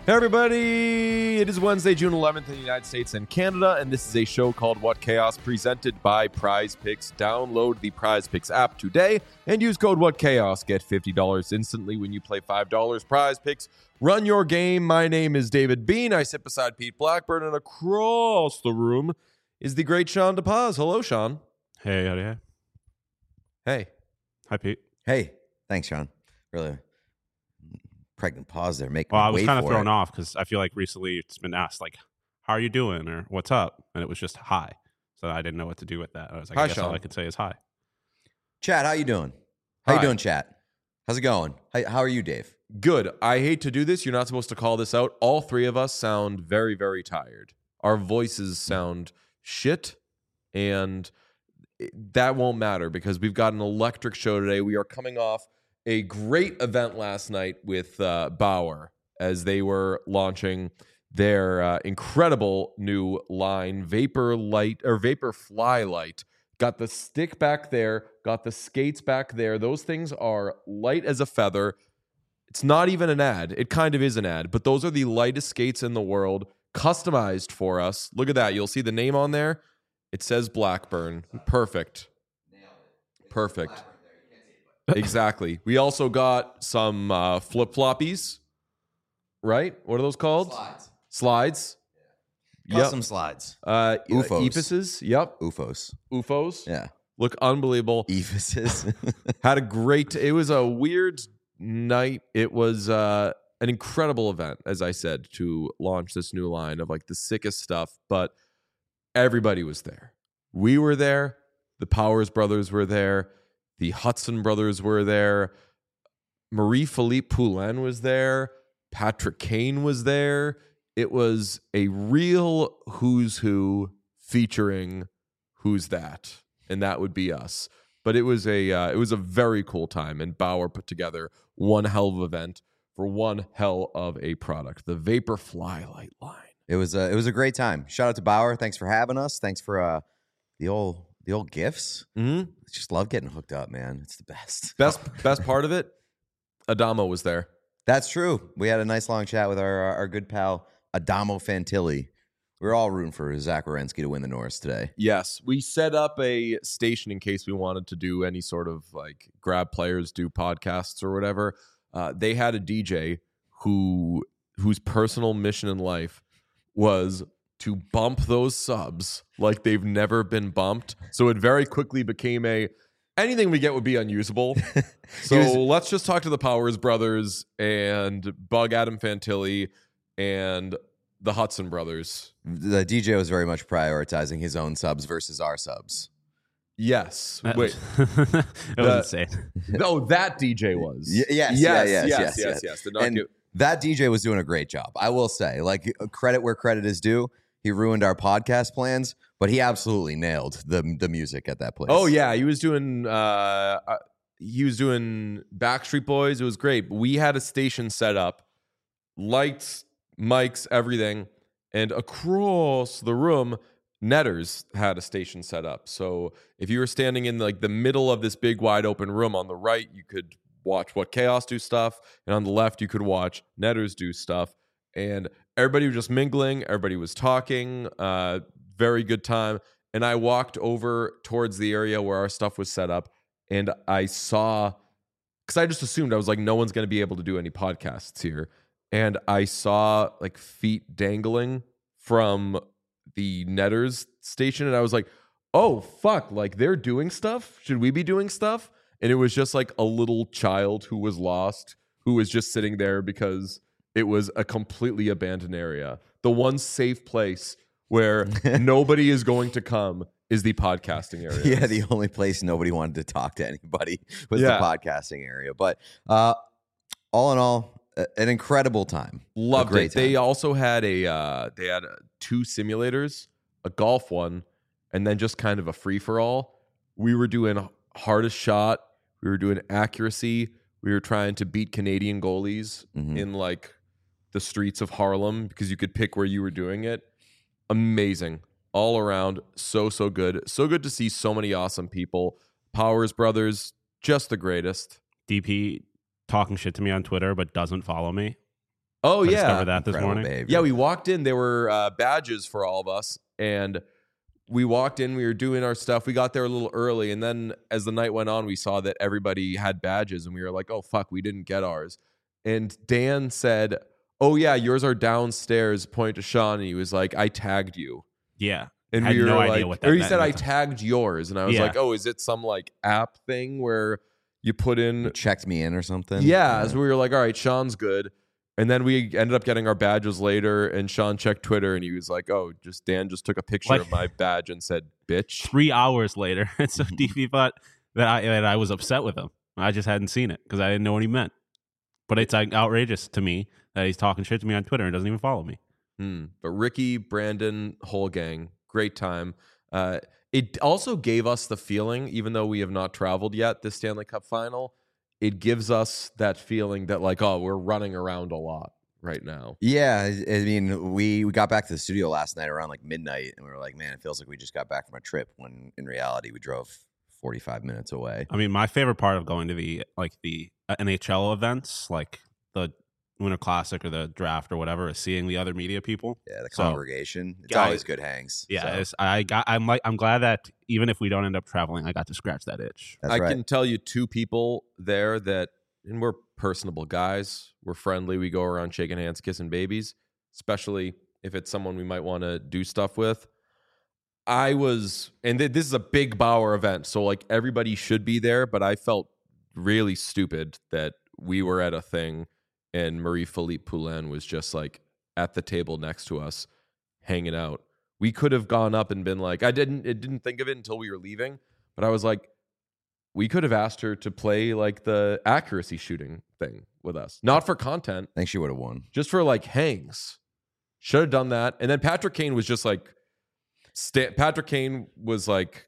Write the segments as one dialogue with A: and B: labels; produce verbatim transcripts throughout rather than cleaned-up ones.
A: Hey everybody, it is Wednesday, June eleventh in the United States and Canada, and this is a show called What Chaos presented by Prize Picks. Download the Prize Picks app today and use code What Chaos. Get fifty dollars instantly when you play five dollars. Prize Picks, run your game. My name is David Bean. I sit beside Pete Blackburn, and across the room is the great Sean DePaz. Hello, Sean.
B: Hey, howdy, hey.
A: Hey.
B: Hi, Pete.
C: Hey, thanks, Sean. Really pregnant pause there. Make
B: Well, I was
C: wait
B: kind of
C: for
B: thrown
C: it.
B: off because I feel like recently it's been asked, like, how are you doing or what's up? And it was just hi. So I didn't know what to do with that. I was like,
A: Hi,
B: I guess
A: Sean.
B: all I could say is hi.
C: Chat, how you doing? How
A: Hi.
C: you doing, chat? How's it going? How, how are you, Dave?
A: Good. I hate to do this. You're not supposed to call this out. All three of us sound very, very tired. Our voices sound shit, and that won't matter because we've got an electric show today. We are coming off a great event last night with uh, Bauer as they were launching their uh, incredible new line, Vapor Light or Vapor Fly Light. Got the stick back there, got the skates back there. Those things are light as a feather. It's not even an ad. It kind of is an ad, but those are the lightest skates in the world, customized for us. Look at that. You'll see the name on there. It says Blackburn. Perfect. Perfect. Exactly. We also got some uh, flip-floppies, right? What are those called?
C: Slides.
A: Slides.
C: Custom
A: Yep.
C: slides.
A: Uh,
C: Ufos.
A: Ephuses. Yep.
C: U F Os.
A: U F Os.
C: Yeah.
A: Look unbelievable.
C: Ephuses.
A: Had a great, it was a weird night. It was uh, an incredible event, as I said, to launch this new line of like the sickest stuff, but everybody was there. We were there. The Powers brothers were there. The Hudson brothers were there. Marie-Philippe Poulin was there. Patrick Kane was there. It was a real who's who featuring who's that, and that would be us. But it was a uh, it was a very cool time, and Bauer put together one hell of an event for one hell of a product, the Vapor Fly Light line.
C: it was a, it was a great time. Shout out to Bauer. Thanks for having us. Thanks for uh, the old the old gifts.
A: Mm-hmm.
C: Just love getting hooked up, man. It's the best.
A: Best best part of it, Adamo was there.
C: That's true. We had a nice long chat with our our good pal Adamo Fantilli. We were all rooting for Zach Wierenski to win the Norris today.
A: Yes, we set up a station in case we wanted to do any sort of like grab players, do podcasts or whatever. Uh, they had a D J who whose personal mission in life was to bump those subs like they've never been bumped. So it very quickly became a anything we get would be unusable. So
C: was-
A: let's just talk to the Powers brothers and bug Adam Fantilli and the Hudson brothers.
C: The D J was very much prioritizing his own subs versus our subs.
A: Yes.
B: That
A: Wait.
B: was, that was
A: The-
B: insane.
A: No, that D J was.
C: Y- yes,
A: yes,
C: yeah,
A: yes,
C: yes, yes,
A: yes,
C: yes.
A: yes. Did not
C: And
A: give-
C: that D J was doing a great job. I will say, like, credit where credit is due. He ruined our podcast plans, but he absolutely nailed the the music at that place.
A: Oh yeah, he was doing. Uh, uh, he was doing Backstreet Boys. It was great. We had a station set up, lights, mics, everything, and across the room, Netters had a station set up. So if you were standing in like the middle of this big wide open room on the right, you could watch What Chaos do stuff, and on the left, you could watch Netters do stuff. And everybody was just mingling. Everybody was talking. Uh, very good time. And I walked over towards the area where our stuff was set up, and I saw, because I just assumed I was like, no one's going to be able to do any podcasts here. And I saw like feet dangling from the Netters station, and I was like, oh fuck, like they're doing stuff. Should we be doing stuff? And it was just like a little child who was lost, who was just sitting there because it was a completely abandoned area. The one safe place where nobody is going to come is the podcasting area.
C: Yeah, the only place nobody wanted to talk to anybody was
A: Yeah.
C: the podcasting area. But uh, all in all, a- an incredible time.
A: Loved
C: A great
A: it. They
C: time.
A: also had a uh, they had uh, two simulators, a golf one, and then just kind of a free for all. We were doing hardest shot. We were doing accuracy. We were trying to beat Canadian goalies
C: Mhm.
A: in like the streets of Harlem because you could pick where you were doing it. Amazing. All around. So, so good. So good to see so many awesome people. Powers brothers, just the greatest.
B: D P talking shit to me on Twitter, but doesn't follow me.
A: Oh
B: I
A: yeah,
B: discovered that this
C: Incredible
B: morning.
C: behavior.
A: yeah. We walked in. There were uh, badges for all of us, and we walked in. We were doing our stuff. We got there a little early, and then as the night went on, we saw that everybody had badges, and we were like, "Oh fuck, we didn't get ours." And Dan said, "Oh yeah, yours are downstairs." Point to Sean, and he was like, "I tagged you."
B: Yeah.
A: And
B: I had
A: we were
B: no
A: like,
B: idea what that
A: or he
B: meant
A: said,
B: at
A: "I
B: the time.
A: tagged yours," and I was
B: Yeah.
A: like, "Oh, is it some like app thing where you put in?"
C: You checked me in or something.
A: Yeah, so we were like, "All right, Sean's good." And then we ended up getting our badges later, and Sean checked Twitter, and he was like, "Oh, just Dan just took a picture
B: Like-
A: of my badge and said, bitch."
B: Three hours later, and so D P thought that I that I was upset with him. I just hadn't seen it because I didn't know what he meant. But it's like outrageous to me that he's talking shit to me on Twitter and doesn't even follow me.
A: Hmm. But Ricky, Brandon, whole gang, great time. Uh, it also gave us the feeling, even though we have not traveled yet, this Stanley Cup final, it gives us that feeling that like, oh, we're running around a lot right now.
C: Yeah, I I mean, we, we got back to the studio last night around like midnight, and we were like, man, it feels like we just got back from a trip, when in reality we drove forty-five minutes away.
B: I mean, my favorite part of going to the like the uh, N H L events, like the Winter Classic or the draft or whatever, is seeing the other media people.
C: Yeah, the
B: So,
C: congregation. It's
B: guys-
C: always good hangs.
B: Yeah,
C: so
B: it's, I got. I'm like, I'm glad that even if we don't end up traveling, I got to scratch that itch.
C: that's
A: I
C: right.
A: can tell you two people there that, and we're personable guys. We're friendly. We go around shaking hands, kissing babies, especially if it's someone we might want to do stuff with. I was, and th- this is a big Bauer event, so like everybody should be there, but I felt really stupid that we were at a thing and Marie-Philippe Poulin was just like at the table next to us hanging out. We could have gone up and been like, I didn't, it didn't think of it until we were leaving, but I was like, we could have asked her to play like the accuracy shooting thing with us, not for content,
C: I think she would have won.
A: just for like hangs. Should have done that. And then Patrick Kane was just like, sta- Patrick Kane was like,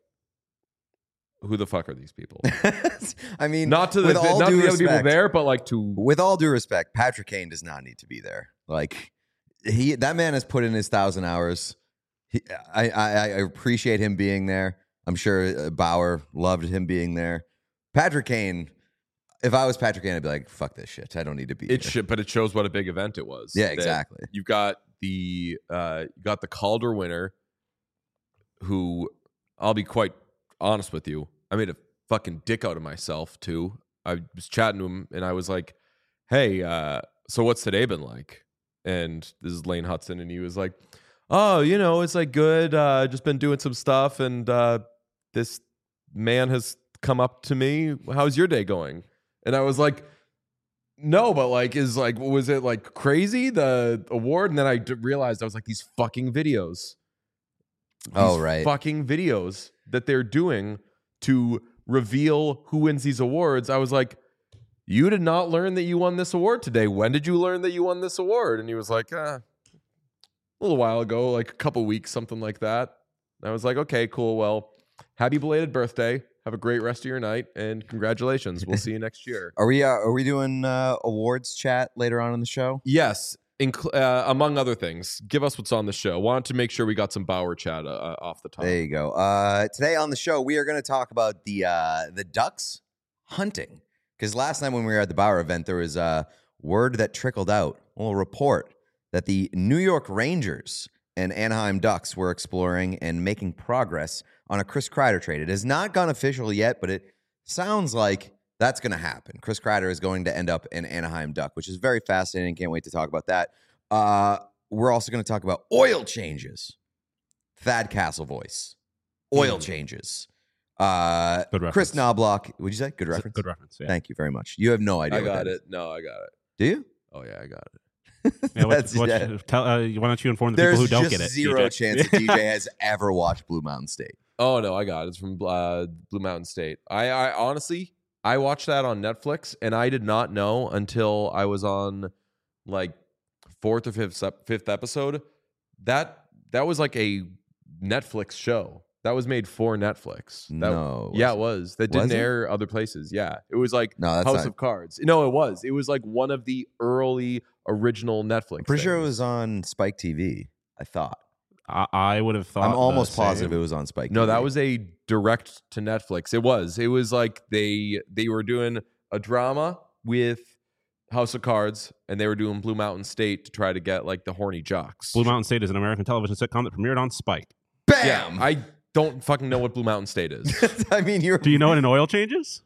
A: who the fuck are these people?
C: I mean,
A: Not to the,
C: with all
A: not to
C: due
A: the other people
C: respect-
A: there, but like to
C: with all due respect, Patrick Kane does not need to be there. Like he, that man has put in his thousand hours. He, I, I, I appreciate him being there. I'm sure uh, Bauer loved him being there. Patrick Kane, if I was Patrick Kane, I'd be like, "Fuck this shit. I don't need to be."
A: it
C: here.
A: should, but it shows what a big event it was.
C: Yeah,
A: That
C: exactly.
A: You've got the uh, you got the Calder winner, who I'll be quite honest with you, I made a fucking dick out of myself too. I was chatting to him and I was like, "Hey, uh, so what's today been like?" And this is Lane Hudson, and he was like, "Oh, you know, it's like good. Uh, just been doing some stuff, and uh, this man has come up to me. How's your day going?" And I was like, "No, but like, is like, was it like crazy the award?" And then I d- realized I was like, these fucking videos. These
C: Oh, right.
A: fucking videos that they're doing to reveal who wins these awards. I was like, "You did not learn that you won this award today. When did you learn that you won this award?" And he was like, uh, a little while ago, like a couple weeks, something like that. And I was like, "Okay, cool. Well, happy belated birthday. Have a great rest of your night, and congratulations. We'll see you next year."
C: Are we? Uh, are we doing uh, awards chat later on in the show?
A: Yes, inc- uh, among other things. Give us what's on the show. Wanted to make sure we got some Bauer chat uh, off the top.
C: There you go. Uh, today on the show, we are going to talk about the uh, the Ducks hunting. Because last night when we were at the Bauer event, there was a word that trickled out, a little report that the New York Rangers and Anaheim Ducks were exploring and making progress on a Chris Kreider trade. It has not gone official yet, but it sounds like that's going to happen. Chris Kreider is going to end up an Anaheim Duck, which is very fascinating. Can't wait to talk about that. Uh, we're also going to talk about oil changes. Thad Castle voice. Oil
A: Mm.
C: changes. Uh,
B: Good reference.
C: Chris Knobloch. Would you say? Good reference?
B: Good reference. Yeah.
C: Thank you very much. You have no idea.
A: I
C: what
A: got
C: that
A: it.
C: is.
A: No, I got it.
C: Do you?
A: Oh yeah, I got it.
B: Yeah, what,
C: That's-
B: what,
C: yeah.
B: tell, uh, why don't you inform the
C: There's
B: people who don't
C: just
B: get it?
C: zero
B: D J?
C: chance that D J has ever watched Blue Mountain State.
A: Oh no, I got it. It's from uh, Blue Mountain State. I, I honestly, I watched that on Netflix, and I did not know until I was on like fourth or fifth ep- fifth episode that that was like a Netflix show that was made for Netflix. That,
C: No,
A: yeah, it was. That didn't
C: Was it?
A: air other places. Yeah, it was like
C: No, that's
A: House
C: not.
A: of Cards. No, it was. It was like one of the early original Netflix.
C: I'm pretty sure it
A: things.
C: was on Spike T V. I thought.
B: I, I would have thought.
C: I'm
B: the
C: almost
B: same.
C: positive it was on Spike.
A: No,
C: T V.
A: that was a direct to Netflix. It was. It was like they they were doing a drama with House of Cards, and they were doing Blue Mountain State to try to get like the horny jocks.
B: Blue Mountain State is an American television sitcom that premiered on Spike.
C: Bam!
A: Yeah, I don't fucking know what Blue Mountain State is.
C: I mean, you're.
B: Do you know what an oil changes?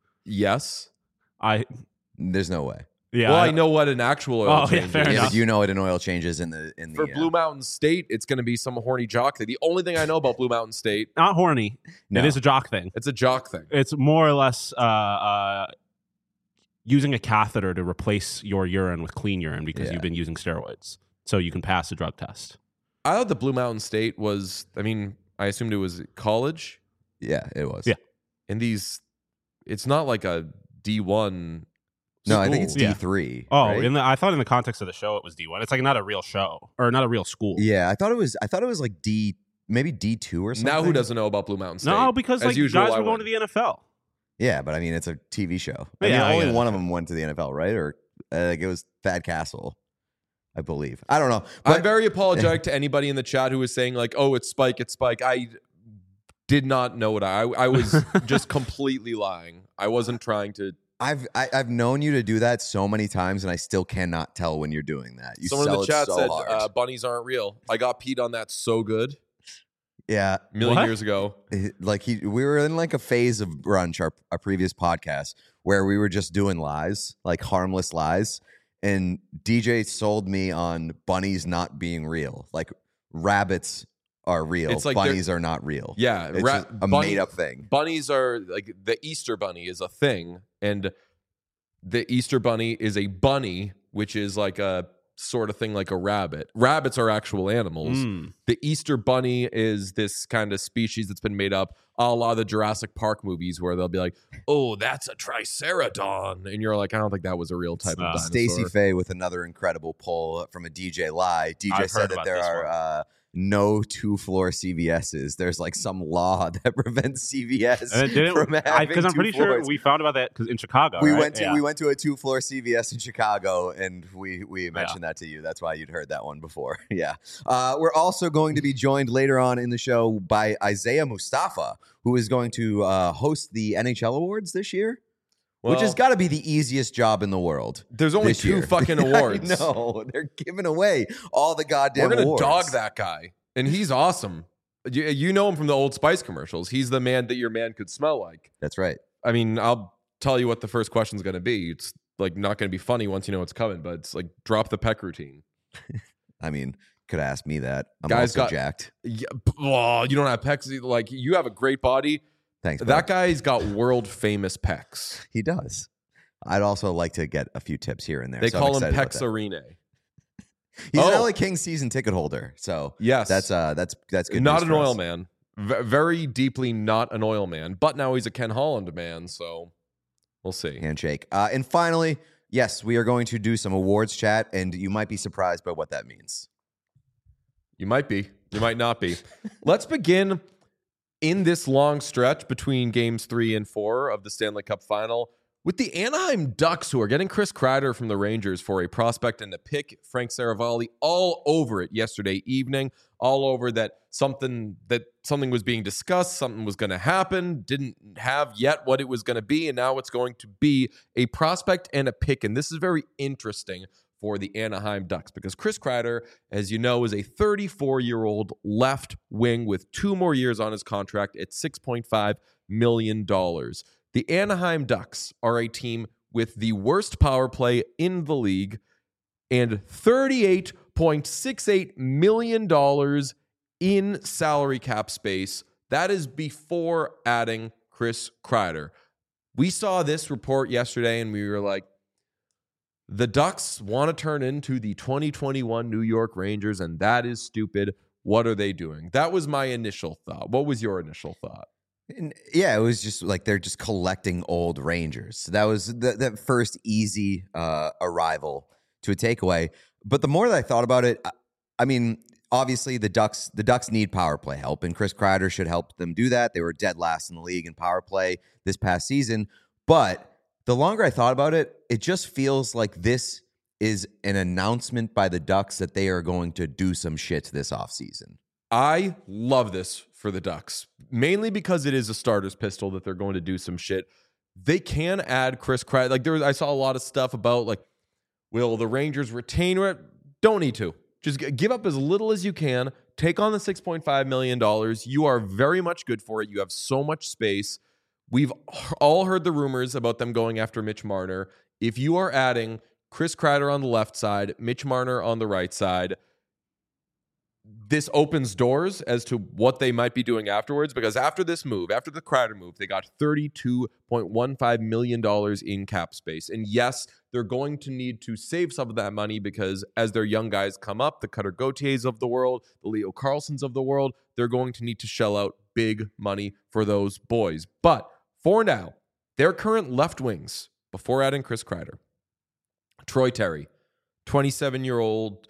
A: Yes.
B: I
C: There's no way.
B: yeah.
A: Well, I know what an actual oil
B: Oh, yeah,
A: change
B: fair
A: is.
C: Yeah,
B: enough.
C: but you know what an oil change is in the in the.
A: For
C: uh,
A: Blue Mountain State, it's going to be some horny jock thing. The only thing I know about Blue Mountain State,
B: Not horny.
C: No.
B: It is a jock thing.
A: it's a jock thing.
B: It's more or less uh, uh, using a catheter to replace your urine with clean urine because
C: Yeah.
B: you've been using steroids, so you can pass a drug test.
A: I thought the Blue Mountain State was, I mean, I assumed it was college.
C: Yeah, it was.
B: Yeah.
A: And these, it's not like a D one.
C: No, I think it's
B: Yeah.
C: D three.
B: Oh,
C: right?
B: in the, I thought in the context of the show it was D one. It's like not a real show or not a real school.
C: Yeah, I thought it was. I thought it was like D, maybe D two or something.
A: Now who doesn't know about Blue Mountain State?
B: No, because
A: As
B: like
A: usual,
B: guys
A: I
B: were going
A: win.
B: to the N F L.
C: Yeah, but I mean, it's a T V show. I
B: Yeah,
C: mean,
B: I
C: only
B: get it.
C: one of them went to the N F L, right? Or uh, like it was Thad Castle, I believe. I don't know. But
A: I'm very apologetic to anybody in the chat who was saying like, "Oh, it's Spike, it's Spike." I did not know what I. I was just completely lying. I wasn't trying to.
C: I've I, I've known you to do that so many times, and I still cannot tell when you're doing that. You
A: Someone in
C: sell
A: the chat
C: it so
A: said
C: hard.
A: uh, bunnies aren't real. I got peed on that so good
C: yeah,
A: a million
B: What?
A: years ago.
C: like he, we were in like a phase of brunch, our our previous podcast, where we were just doing lies, like harmless lies, and D J sold me on bunnies not being real. Like rabbits are real,
A: It's like they're-
C: bunnies are not real.
A: Yeah,
C: It's
A: ra-
C: just a
A: bunny-
C: made up thing.
A: Bunnies are like the Easter bunny is a thing, and the Easter bunny is a bunny, which is like a sort of thing like a rabbit. Rabbits are actual animals.
B: Mm.
A: The Easter bunny is this kind of species that's been made up a la the Jurassic Park movies where they'll be like, oh, that's a triceratodon. And you're like, I don't think that was a real type
B: Uh,
A: of dinosaur.
C: Stacey Faye with another incredible poll from a D J Lie. D J
B: I've
C: said
B: heard
C: that
B: about
C: there
B: this
C: are
B: one.
C: uh, no two floor C V S's. There's like some law that prevents C V S
B: And it didn't-
C: from
B: I-
C: having
B: Because I'm
C: two
B: pretty
C: floors.
B: sure we found about that because in Chicago.
C: we
B: right?
C: went to
B: Yeah.
C: we went to a two floor C V S in Chicago, and we we mentioned that to you. That's why you'd heard that one before. yeah. Uh, we're also going to be joined later on in the show by Isaiah Mustafa, who is going to uh, host the N H L awards this year, which has
A: Well,
C: got to be the easiest job in the world.
A: there's only
C: this
A: two
C: year.
A: fucking awards.
C: No, they're giving away all the goddamn.
A: We're gonna
C: awards.
A: dog that guy, and he's awesome. You, you know him from the Old Spice commercials. He's the man that your man could smell like.
C: That's right.
A: I mean, I'll tell you what the first question's going to be. It's like not going to be funny once you know what's coming, but it's like drop the peck routine.
C: I mean, could have asked me that. I'm
A: Guys
C: also
A: got-
C: jacked.
A: Yeah, p- oh, you don't have pecs. Like you have a great body.
C: Thanks. bud.
A: That guy's got world famous pecs.
C: He does. I'd also like to get a few tips here and there.
A: They
C: so I'm
A: call him
C: excited about that.
A: Pexarine.
C: He's an
A: Oh.
C: L A Kings season ticket holder, so
A: Yes,
C: that's uh that's that's good.
A: not
C: news
A: an
C: for
A: oil
C: us.
A: man. V- very deeply not an oil man. But now he's a Ken Holland man. So we'll see.
C: Handshake. Uh, and finally, yes, we are going to do some awards chat, and you might be surprised by what that means.
A: You might be. You might not be. Let's begin in this long stretch between games three and four of the Stanley Cup final with the Anaheim Ducks, who are getting Chris Kreider from the Rangers for a prospect and a pick. Frank Saravalli all over it yesterday evening, all over that something that something was being discussed, something was going to happen, didn't have yet what it was going to be, and now it's going to be a prospect and a pick. And this is very interesting for the Anaheim Ducks because Chris Kreider, as you know, is a thirty-four-year-old left wing with two more years on his contract at six point five million dollars. The Anaheim Ducks are a team with the worst power play in the league and thirty-eight point six eight million dollars in salary cap space. That is before adding Chris Kreider. We saw this report yesterday and we were like, the Ducks want to turn into the twenty twenty-one New York Rangers, and that is stupid. What are they doing? That was my initial thought. What was your initial thought?
C: And yeah, it was just like they're just collecting old Rangers. That was the, that first easy uh, arrival to a takeaway. But the more that I thought about it, I, I mean, obviously the Ducks the Ducks need power play help, and Chris Kreider should help them do that. They were dead last in the league in power play this past season. But the longer I thought about it, it just feels like this is an announcement by the Ducks that they are going to do some shit this offseason.
A: I love this for the Ducks, mainly because it is a starter's pistol that they're going to do some shit. They can add Chris Kreider. Like there was, I saw a lot of stuff about like Will the Rangers retain it? Don't need to. Just g- give up as little as you can. Take on the six point five million dollars. You are very much good for it. You have so much space. We've all heard the rumors about them going after Mitch Marner. If you are adding Chris Kreider on the left side, Mitch Marner on the right side, this opens doors as to what they might be doing afterwards, because after this move, after the Kreider move, they got thirty-two point one five million dollars in cap space. And yes, they're going to need to save some of that money because as their young guys come up, the Cutter Gauthiers of the world, the Leo Carlsons of the world, they're going to need to shell out big money for those boys. But for now, their current left wings, before adding Chris Kreider, Troy Terry, twenty-seven-year-old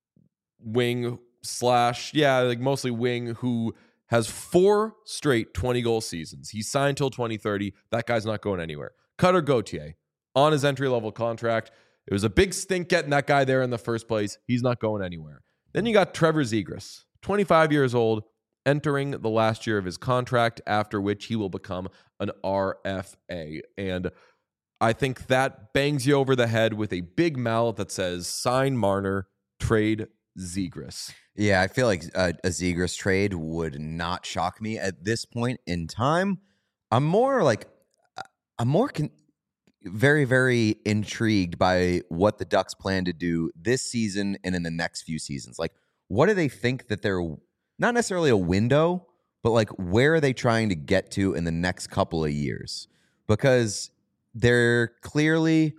A: wing slash, yeah, like mostly wing, who has four straight twenty-goal seasons. He's signed till twenty thirty. That guy's not going anywhere. Cutter Gauthier, on his entry-level contract. It was a big stink getting that guy there in the first place. He's not going anywhere. Then you got Trevor Zegras, twenty-five years old, entering the last year of his contract, after which he will become an R F A. And I think that bangs you over the head with a big mallet that says, sign Marner, trade Zegras.
C: Yeah, I feel like a, a Zegras trade would not shock me at this point in time. I'm more like, I'm more con- very, very intrigued by what the Ducks plan to do this season and in the next few seasons. Like, what do they think that they're, not necessarily a window, but like, where are they trying to get to in the next couple of years? Because they're clearly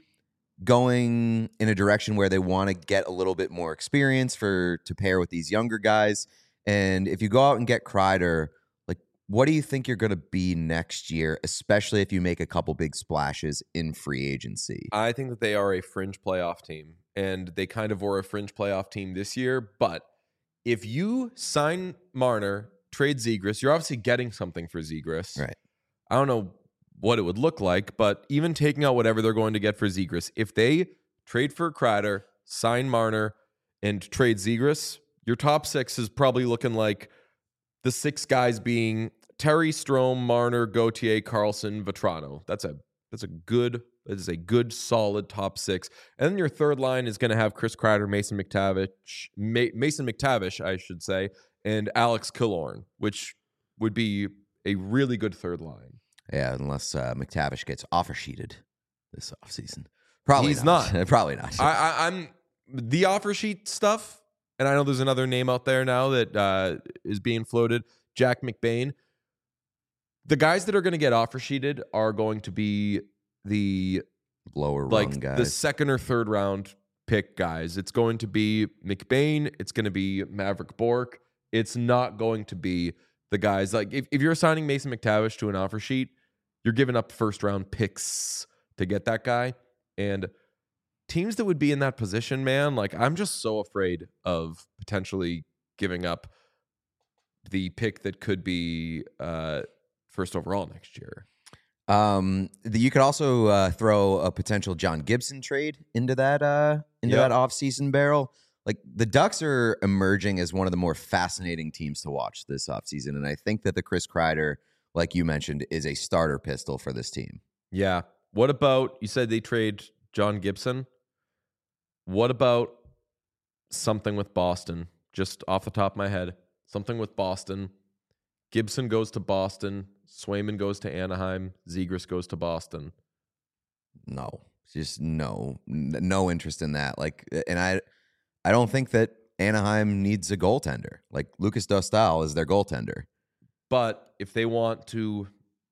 C: going in a direction where they want to get a little bit more experience for to pair with these younger guys. And if you go out and get Kreider, like, what do you think you're going to be next year, especially if you make a couple big splashes in free agency?
A: I think that they are a fringe playoff team, and they kind of were a fringe playoff team this year. But if you sign Marner, trade Zegras, you're obviously getting something for Zegras.
C: Right.
A: I don't know what it would look like, but even taking out whatever they're going to get for Zegras, if they trade for Kreider, sign Marner, and trade Zegras, your top six is probably looking like the six guys being Terry, Strome, Marner, Gauthier, Carlson, Vetrano. That's a that's a good that is a good solid top six. And then your third line is going to have Chris Kreider, Mason McTavish, Ma- Mason McTavish, I should say, and Alex Killorn, which would be a really good third line.
C: Yeah, unless uh, McTavish gets offer sheeted this offseason. Probably
A: He's
C: not.
A: not.
C: Probably not.
A: I, I, I'm the offer sheet stuff, and I know there's another name out there now that uh, is being floated, Jack McBain. The guys that are going to get offer sheeted are going to be the
C: Lower
A: like
C: rung guys.
A: the second or third round pick guys. It's going to be McBain. It's going to be Maverick Bourque. It's not going to be the guys like if, if you're signing Mason McTavish to an offer sheet, you're giving up first round picks to get that guy. And teams that would be in that position, man, like I'm just so afraid of potentially giving up the pick that could be uh, first overall next year.
C: Um, the, you could also uh, throw a potential John Gibson trade into that uh, into
A: Yep.
C: that offseason barrel. Like the Ducks are emerging as one of the more fascinating teams to watch this offseason. And I think that the Chris Kreider, like you mentioned, is a starter pistol for this team.
A: Yeah. What about, you said they trade John Gibson. What about something with Boston? Just off the top of my head, something with Boston. Gibson goes to Boston. Swayman goes to Anaheim. Zegras goes to Boston.
C: No, just no, n- no interest in that. Like, and I, I don't think that Anaheim needs a goaltender. Like Lucas Dostal is their goaltender.
A: But if they want to,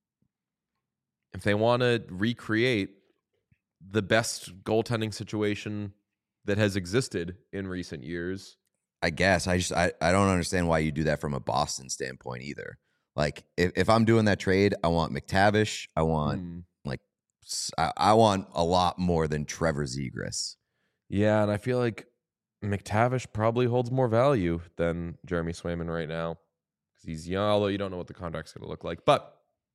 A: if they want to recreate the best goaltending situation that has existed in recent years,
C: I guess I just I, I don't understand why you do that from a Boston standpoint either. Like if, if I'm doing that trade, I want McTavish. I want
A: hmm,
C: like s- I, I want a lot more than Trevor Zegras.
A: yeah, and I feel like McTavish probably holds more value than Jeremy Swayman right now because he's young, although you don't know what the contract's going to look like. But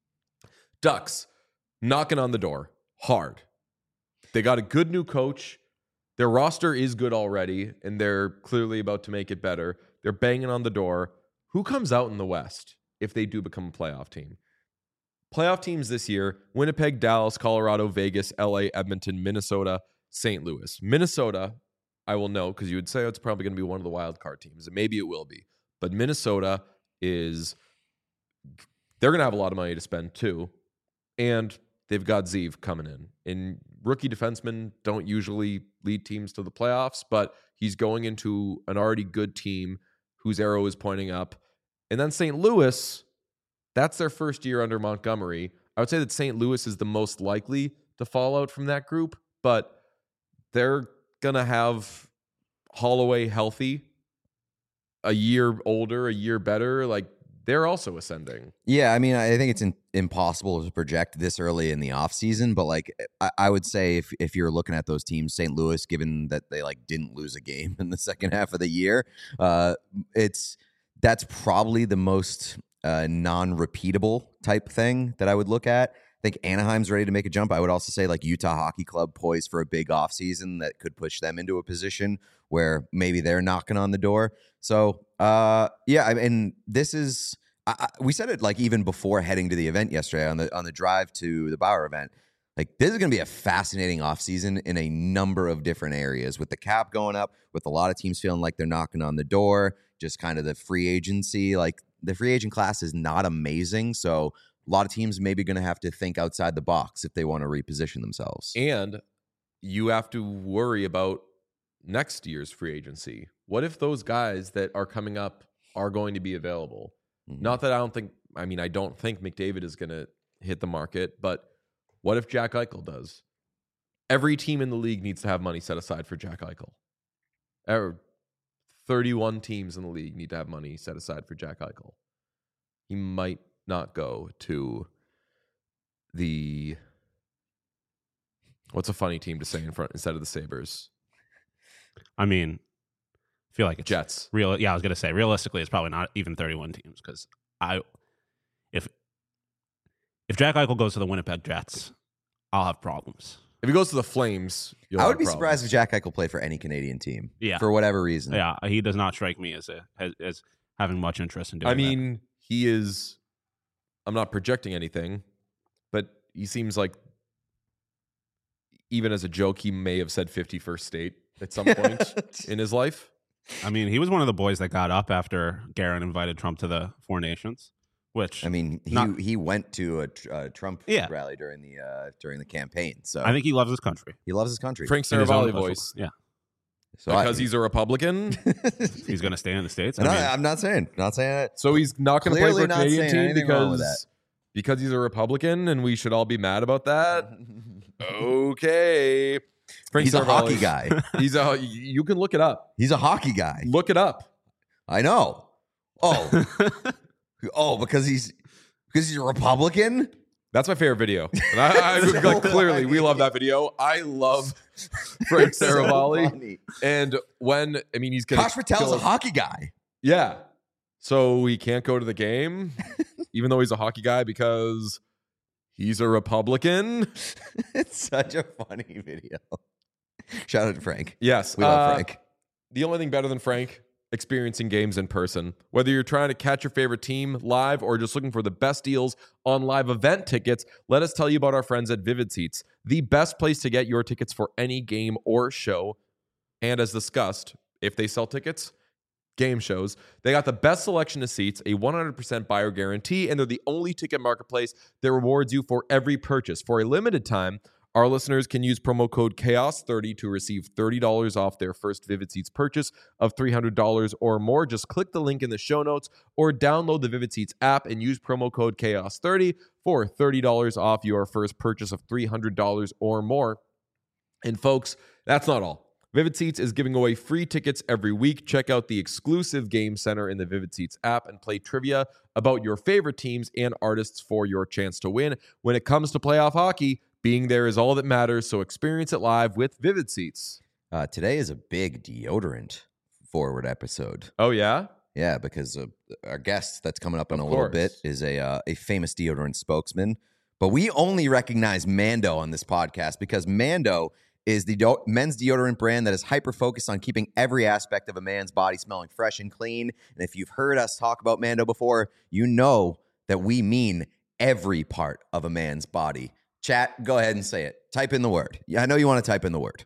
A: Ducks knocking on the door hard. They got a good new coach. Their roster is good already, and they're clearly about to make it better. They're banging on the door. Who comes out in the West if they do become a playoff team? Playoff teams this year: Winnipeg, Dallas, Colorado, Vegas, L A, Edmonton, Minnesota, Saint Louis. Minnesota, I will know because you would say it's probably going to be one of the wild card teams, and maybe it will be. But Minnesota is, they're going to have a lot of money to spend too. And they've got Zeev coming in. And rookie defensemen don't usually lead teams to the playoffs, but he's going into an already good team whose arrow is pointing up. And then Saint Louis, that's their first year under Montgomery. I would say that Saint Louis is the most likely to fall out from that group, but they're going to have Holloway healthy, a year older, a year better. Like, they're also ascending.
C: Yeah, I mean, I think it's in, impossible to project this early in the offseason, but like I, I would say if if you're looking at those teams, Saint Louis, given that they like didn't lose a game in the second half of the year, uh, it's that's probably the most uh, non-repeatable type thing that I would look at. I think Anaheim's ready to make a jump. I would also say like Utah Hockey Club poised for a big offseason that could push them into a position where maybe they're knocking on the door. So, uh, yeah, I mean, this is I, I, we said it like even before heading to the event yesterday on the on the drive to the Bauer event. Like, this is going to be a fascinating offseason in a number of different areas, with the cap going up, with a lot of teams feeling like they're knocking on the door, just kind of the free agency. Like, the free agent class is not amazing, so a lot of teams maybe going to have to think outside the box if they want to reposition themselves.
A: And you have to worry about next year's free agency. What if those guys that are coming up are going to be available? Mm-hmm. Not that I don't think, I mean, I don't think McDavid is going to hit the market, but what if Jack Eichel does? Every team in the league needs to have money set aside for Jack Eichel. Er, thirty-one teams in the league need to have money set aside for Jack Eichel. He might not go to the, what's a funny team to say in front instead of the Sabres?
B: I mean, I feel like it's
A: Jets.
B: Real, yeah, I was gonna say realistically, it's probably not even thirty-one teams, because I, if if Jack Eichel goes to the Winnipeg Jets, I'll have problems.
A: If he goes to the Flames, you'll
C: I would
A: have
C: be
A: problems.
C: surprised if Jack Eichel played for any Canadian team.
B: Yeah,
C: for whatever reason.
B: Yeah, he does not strike me as a as, as having much interest in doing.
A: I mean, that. he is. I'm not projecting anything, but he seems like, even as a joke, he may have said fifty-first state at some point in his life.
B: I mean, he was one of the boys that got up after Guerin invited Trump to the Four Nations. Which
C: I mean, he
B: not,
C: he went to a, a Trump
B: yeah.
C: rally during the uh, during the campaign. So
B: I think he loves his country.
C: He loves his country.
A: Frank Saravalli voice,
B: yeah.
A: So because I, he's a Republican,
B: he's going to stay in the States. I
C: no,
B: mean,
C: I'm not saying, not saying it.
A: So he's not going to play for a Canadian team because
C: that.
A: because he's a Republican, and we should all be mad about that. Okay, Frank
C: he's
A: Saravalli,
C: a hockey guy.
A: He's a. You can look it up.
C: He's a hockey guy.
A: Look it up.
C: I know. Oh, oh, because he's. Because he's a Republican?
A: That's my favorite video. And I, I,
C: so
A: like, clearly, we love that video. I love Frank Saravalli. So and when, I mean, he's going to.
C: Kosh Patel's a hockey guy.
A: Yeah. So he can't go to the game, even though he's a hockey guy, because he's a Republican.
C: It's such a funny video. Shout out to Frank.
A: Yes.
C: We love
A: uh,
C: Frank.
A: The only thing better than Frank, experiencing games in person. Whether you're trying to catch your favorite team live or just looking for the best deals on live event tickets, let us tell you about our friends at Vivid Seats, the best place to get your tickets for any game or show. And as discussed, if they sell tickets, game shows, they got the best selection of seats, a one hundred percent buyer guarantee, and they're the only ticket marketplace that rewards you for every purchase. For a limited time, our listeners can use promo code chaos thirty to receive thirty dollars off their first Vivid Seats purchase of three hundred dollars or more. Just click the link in the show notes or download the Vivid Seats app and use promo code chaos thirty for thirty dollars off your first purchase of three hundred dollars or more. And folks, that's not all. Vivid Seats is giving away free tickets every week. Check out the exclusive Game Center in the Vivid Seats app and play trivia about your favorite teams and artists for your chance to win. When it comes to playoff hockey, being there is all that matters, so experience it live with Vivid Seats.
C: Uh, today is a big deodorant forward episode.
A: Oh, yeah?
C: Yeah, because uh, our guest that's coming up in
A: Of
C: a little
A: course.
C: bit is a uh, a famous deodorant spokesman. But we only recognize Mando on this podcast because Mando is the do- men's deodorant brand that is hyper-focused on keeping every aspect of a man's body smelling fresh and clean. And if you've heard us talk about Mando before, you know that we mean every part of a man's body. Chat, go ahead and say it. Type in the word. Yeah, I know you want to type in the word.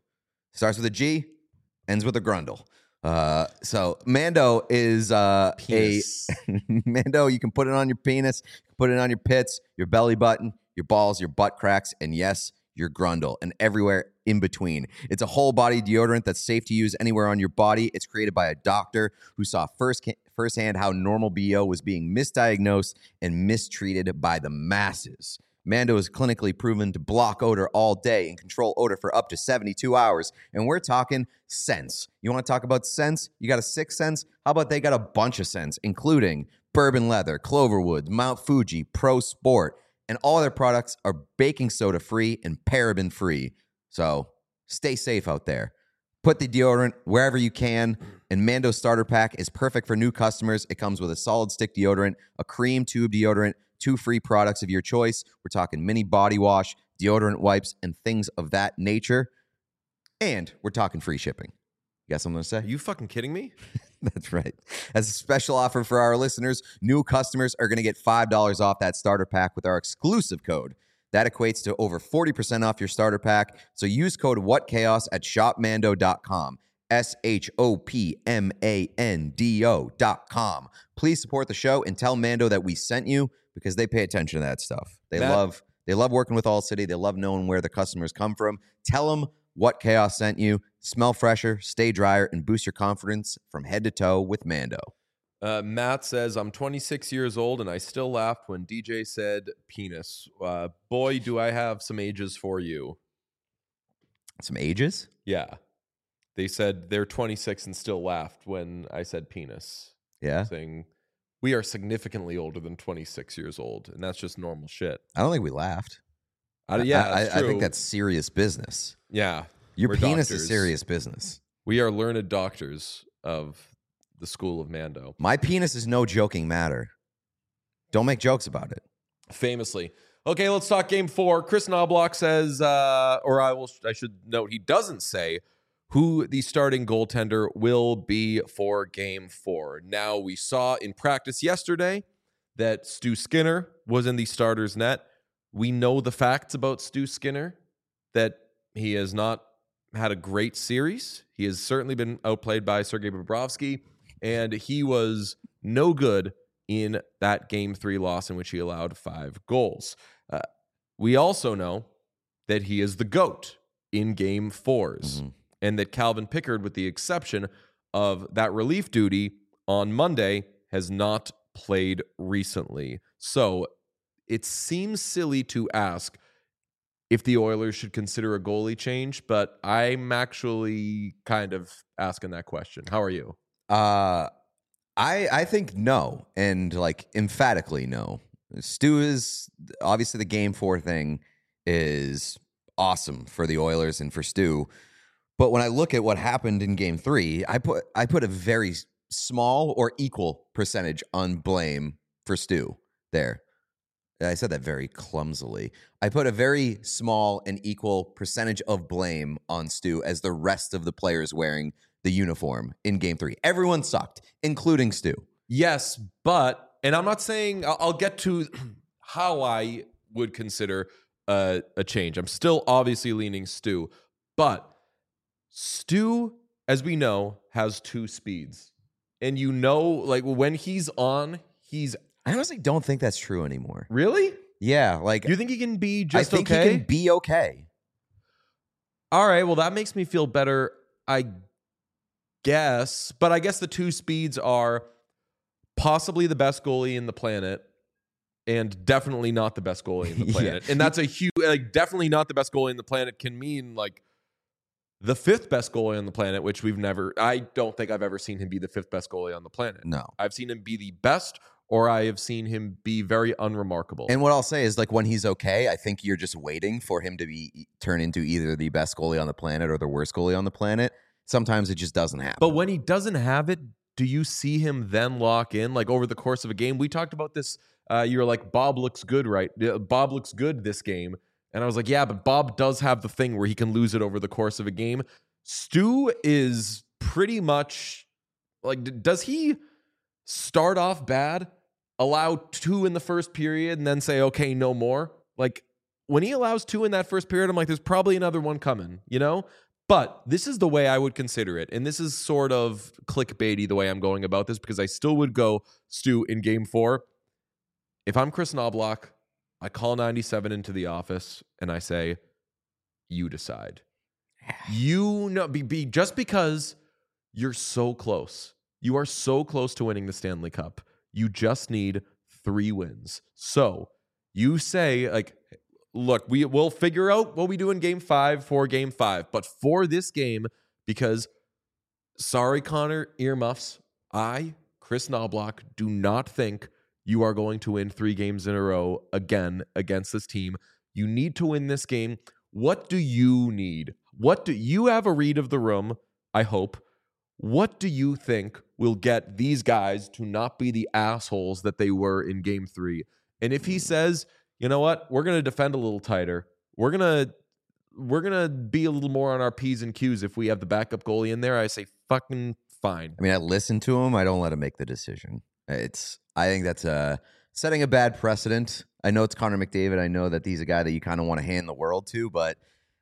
C: Starts with a G, ends with a grundle. Uh, so Mando is uh, a Mando. You can put it on your penis, put it on your pits, your belly button, your balls, your butt cracks, and yes, your grundle, and everywhere in between. It's a whole body deodorant that's safe to use anywhere on your body. It's created by a doctor who saw first firsthand how normal B O was being misdiagnosed and mistreated by the masses. Mando is clinically proven to block odor all day and control odor for up to seventy-two hours. And we're talking scents. You want to talk about scents? You got a sixth sense? How about they got a bunch of scents, including bourbon leather, Cloverwood, Mount Fuji, Pro Sport, and all their products are baking soda free and paraben free. So stay safe out there. Put the deodorant wherever you can. And Mando Starter Pack is perfect for new customers. It comes with a solid stick deodorant, a cream tube deodorant, two free products of your choice. We're talking mini body wash, deodorant wipes, and things of that nature. And we're talking free shipping. You got something to say?
A: Are you fucking kidding me?
C: That's right. As a special offer for our listeners, new customers are going to get five dollars off that starter pack with our exclusive code. That equates to over forty percent off your starter pack. So use code WhatChaos at shop mando dot com. S H O P M A N D O dot com. Please support the show and tell Mando that we sent you because they pay attention to that stuff. They
A: Matt,
C: love they love working with All City. They love knowing where the customers come from. Tell them What Chaos sent you. Smell fresher, stay drier, and boost your confidence from head to toe with Mando.
A: Uh, Matt says, I'm twenty-six years old and I still laughed when D J said penis. Uh, boy, do I have some ages for you.
C: Some ages?
A: Yeah. They said they're twenty-six and still laughed when I said penis.
C: Yeah.
A: Saying we are significantly older than twenty-six years old, and that's just normal shit.
C: I don't think we laughed.
A: Uh, yeah,
C: I,
A: that's
C: I, I
A: true.
C: think that's serious business.
A: Yeah.
C: Your
A: we're
C: penis
A: doctors.
C: is serious business.
A: We are learned doctors of the school of Mando.
C: My penis is no joking matter. Don't make jokes about it.
A: Famously. Okay, let's talk game four. Chris Knobloch says, uh, or I will, I should note, he doesn't say who the starting goaltender will be for game four. Now, we saw in practice yesterday that Stu Skinner was in the starter's net. We know the facts about Stu Skinner, that he has not had a great series. He has certainly been outplayed by Sergei Bobrovsky, and he was no good in that game three loss in which he allowed five goals. Uh, we also know that he is the GOAT in game fours, mm-hmm. and that Calvin Pickard, with the exception of that relief duty on Monday, has not played recently. So it seems silly to ask if the Oilers should consider a goalie change, but I'm actually kind of asking that question. How are you?
C: Uh, I I think no, and like emphatically no. Stu is obviously the game four thing is awesome for the Oilers and for Stu, but when I look at what happened in game three, I put I put a very small or equal percentage on blame for Stu there. I said that very clumsily. I put a very small and equal percentage of blame on Stu as the rest of the players wearing the uniform in game three. Everyone sucked, including Stu.
A: Yes, but, and I'm not saying, I'll, I'll get to how I would consider a, a change. I'm still obviously leaning Stu, but Stu, as we know, has two speeds. And you know, like when he's on, he's
C: I honestly don't think that's true anymore.
A: Really?
C: Yeah, like
A: you think he can be just
C: I think
A: okay?
C: he can be okay.
A: All right, well that makes me feel better, I guess. But I guess the two speeds are possibly the best goalie in the planet and definitely not the best goalie in the planet. yeah. And that's a huge, like definitely not the best goalie in the planet can mean like the fifth best goalie on the planet, which we've never, I don't think I've ever seen him be the fifth best goalie on the planet.
C: No.
A: I've seen him be the best, or I have seen him be very unremarkable.
C: And what I'll say is, like, when he's okay, I think you're just waiting for him to be turn into either the best goalie on the planet or the worst goalie on the planet. Sometimes it just doesn't happen.
A: But when he doesn't have it, do you see him then lock in? Like, over the course of a game? We talked about this. Uh, you were like, Bob looks good, right? Bob looks good this game. And I was like, yeah, but Bob does have the thing where he can lose it over the course of a game. Stu is pretty much, like, does he start off bad, allow two in the first period, and then say, okay, no more? Like, when he allows two in that first period, I'm like, there's probably another one coming, you know? But this is the way I would consider it. And this is sort of clickbaity the way I'm going about this, because I still would go Stu in game four. If I'm Chris Knobloch, I call ninety-seven into the office and I say, you decide. You know, be, be just because you're so close. You are so close to winning the Stanley Cup. You just need three wins. So you say, like, look, we will figure out what we do in game five for game five. But for this game, because, sorry, Connor, earmuffs, I, Chris Knobloch, do not think you are going to win three games in a row again against this team. You need to win this game. What do you need? What do you have a read of the room? I hope. What do you think will get these guys to not be the assholes that they were in game three? And if he says, you know what, we're going to defend a little tighter, we're going to we're going to be a little more on our P's and Q's if we have the backup goalie in there, I say fucking fine.
C: I mean, I listen to him. I don't let him make the decision. It's I think that's uh, setting a bad precedent. I know it's Connor McDavid. I know that he's a guy that you kind of want to hand the world to, but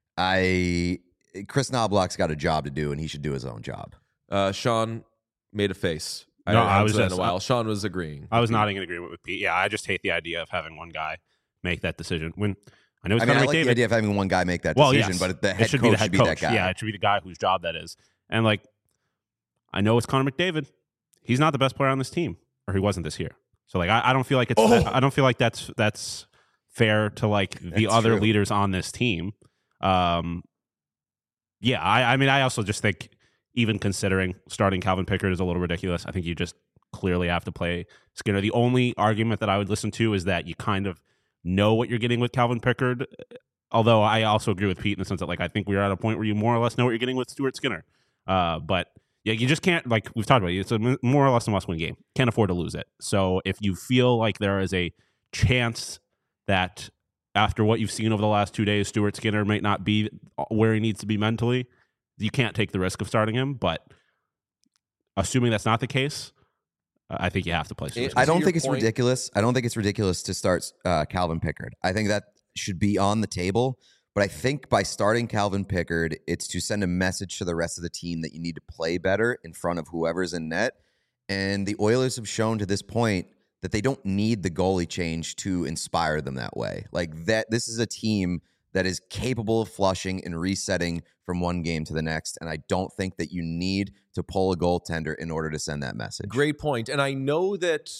C: I Chris Knobloch's got a job to do, and he should do his own job.
A: Uh, Sean made a face.
B: No,
A: I,
B: I was
A: that in
B: just-
A: a while. Sean was agreeing.
B: I was nodding in agreement with Pete. Yeah, I just hate the idea of having one guy make that decision. When I know it's
C: I mean, I
B: Connor
C: like
B: McDavid.
C: the idea of having one guy make that
B: well,
C: decision,
B: yes,
C: but the
B: it
C: head
B: should
C: coach
B: be the head
C: should be
B: coach.
C: that guy.
B: Yeah, it should be the guy whose job that is. And like, I know it's Connor McDavid. He's not the best player on this team, or he wasn't this year. So like, I, I don't feel like it's.
A: Oh.
B: I don't feel like that's that's fair to like the
C: That's
B: other
C: true.
B: leaders on this team. Um, yeah, I, I mean, I also just think even considering starting Calvin Pickard is a little ridiculous. I think you just clearly have to play Skinner. The only argument that I would listen to is that you kind of know what you're getting with Calvin Pickard. Although I also agree with Pete in the sense that like I think we're at a point where you more or less know what you're getting with Stuart Skinner. Uh, but yeah, you just can't, like we've talked about, it's a more or less a must-win game. Can't afford to lose it. So if you feel like there is a chance that after what you've seen over the last two days, Stuart Skinner might not be where he needs to be mentally, you can't take the risk of starting him. But assuming that's not the case, I think you have to play Stuart
A: It-
B: Skinner.
C: I don't
A: your
C: think it's
A: point-
C: ridiculous. I don't think it's ridiculous to start uh, Calvin Pickard. I think that should be on the table. But I think by starting Calvin Pickard, it's to send a message to the rest of the team that you need to play better in front of whoever's in net. And the Oilers have shown to this point that they don't need the goalie change to inspire them that way. Like that, this is a team that is capable of flushing and resetting from one game to the next. And I don't think that you need to pull a goaltender in order to send that message.
A: Great point. And I know that,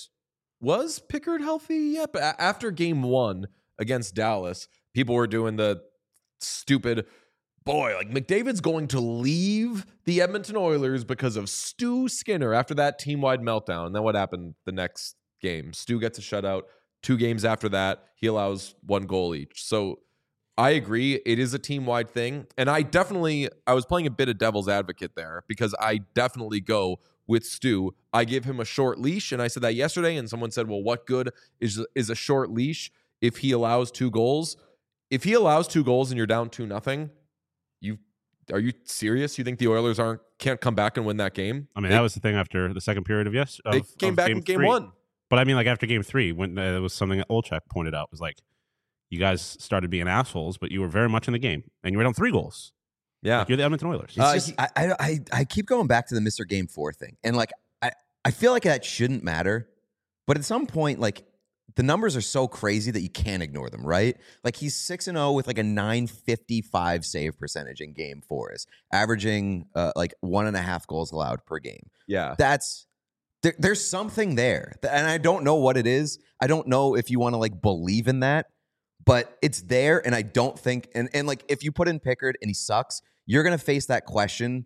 A: was Pickard healthy yet? But a- after game one against Dallas, people were doing the stupid, boy, like McDavid's going to leave the Edmonton Oilers because of Stu Skinner after that team-wide meltdown. And then what happened the next game? Stu gets a shutout. Two games after that, he allows one goal each. So I agree. It is a team-wide thing. And I definitely, I was playing a bit of devil's advocate there because I definitely go with Stu. I give him a short leash, and I said that yesterday, and someone said, well, what good is is a short leash if he allows two goals? If he allows two goals and you're down two nothing, you are you serious? You think the Oilers aren't can't come back and win that game?
B: I mean,
A: they,
B: that was the thing after the second period of yes. Of,
A: they came
B: of
A: back
B: game
A: in game
B: three.
A: one.
B: But I mean, like after game three, when uh, it was something that Olchek pointed out, was like, you guys started being assholes, but you were very much in the game, and you were down three goals.
A: Yeah.
B: Like, you're the Edmonton Oilers.
C: It's
A: Uh,
C: just,
A: he-
C: I, I, I, I keep going back to the Mister Game Four thing, and like I, I feel like that shouldn't matter, but at some point, like the numbers are so crazy that you can't ignore them, right? Like he's six and zero with like a nine fifty five save percentage in Game Fours, averaging uh, like one and a half goals allowed per game.
A: Yeah.
C: That's there, there's something there, and I don't know what it is. I don't know if you want to like believe in that, but it's there, and I don't think and and like if you put in Pickard and he sucks, you're gonna face that question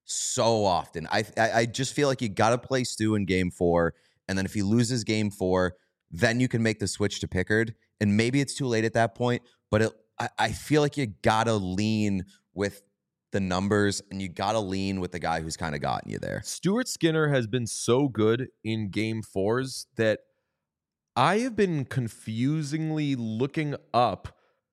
C: so often. I I, I just feel like you got to play Stu in Game Four, and then if he loses Game Four, then you can make the switch to Pickard, and maybe it's too late at that point. But it, I, I feel like you gotta lean with the numbers, and you gotta lean with the guy who's kind of gotten you there.
A: Stuart Skinner has been so good in game fours that I have been confusingly looking up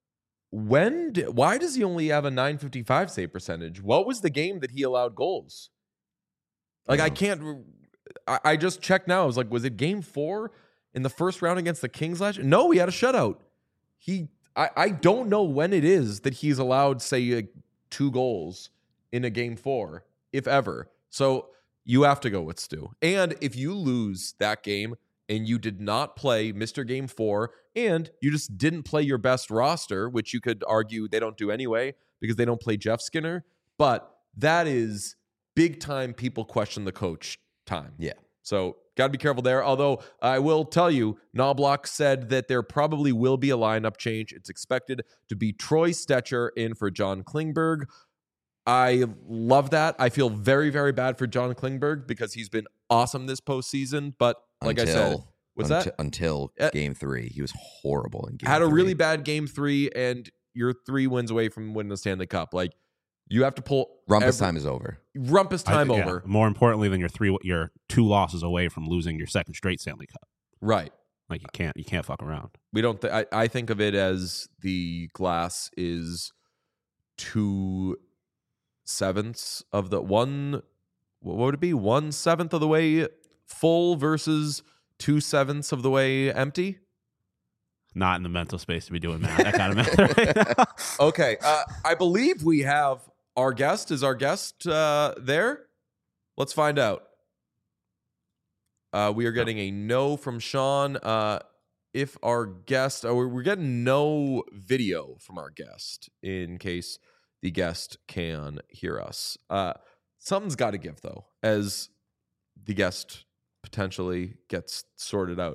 A: when di- why does he only have a nine fifty-five save percentage? What was the game that he allowed goals? Like I
C: Oh.
A: can't re- I, I just checked now. I was like, was it game four in the first round against the Kings last year? No, he had a shutout. He I, I don't know when it is that he's allowed, say, like, two goals in a game four, if ever. So you have to go with Stu. And if you lose that game and you did not play Mister Game four and you just didn't play your best roster, which you could argue they don't do anyway because they don't play Jeff Skinner, but that is big time people question the coach time.
C: Yeah.
A: So got to be careful there. Although I will tell you, Knobloch said that there probably will be a lineup change. It's expected to be Troy Stetcher in for John Klingberg. I love that. I feel very, very bad for John Klingberg because he's been awesome this postseason. But like
C: until,
A: I said, what's
C: until,
A: that?
C: Until
A: uh,
C: game three. He was horrible in game
A: Had a
C: three.
A: really bad game three, and you're three wins away from winning the Stanley Cup. Like, you have to pull...
C: Rumpus
A: every,
C: time is over.
A: Rumpus time
B: I, yeah,
A: over.
B: More importantly than your three, your two losses away from losing your second straight Stanley Cup.
A: Right.
B: Like, you can't, you can't fuck around.
A: We don't... Th- I, I think of it as the glass is two... sevenths of the one, what would it be? One seventh of the way full versus two sevenths of the way empty.
B: Not in the mental space to be doing that. That kind of matter right now.
A: Okay, uh, I believe we have our guest. Is our guest uh, there? Let's find out. Uh, we are getting a no from Sean. Uh, if our guest, oh, we're getting no video from our guest in case the guest can hear us. Uh, something's got to give, though, as the guest potentially gets sorted out.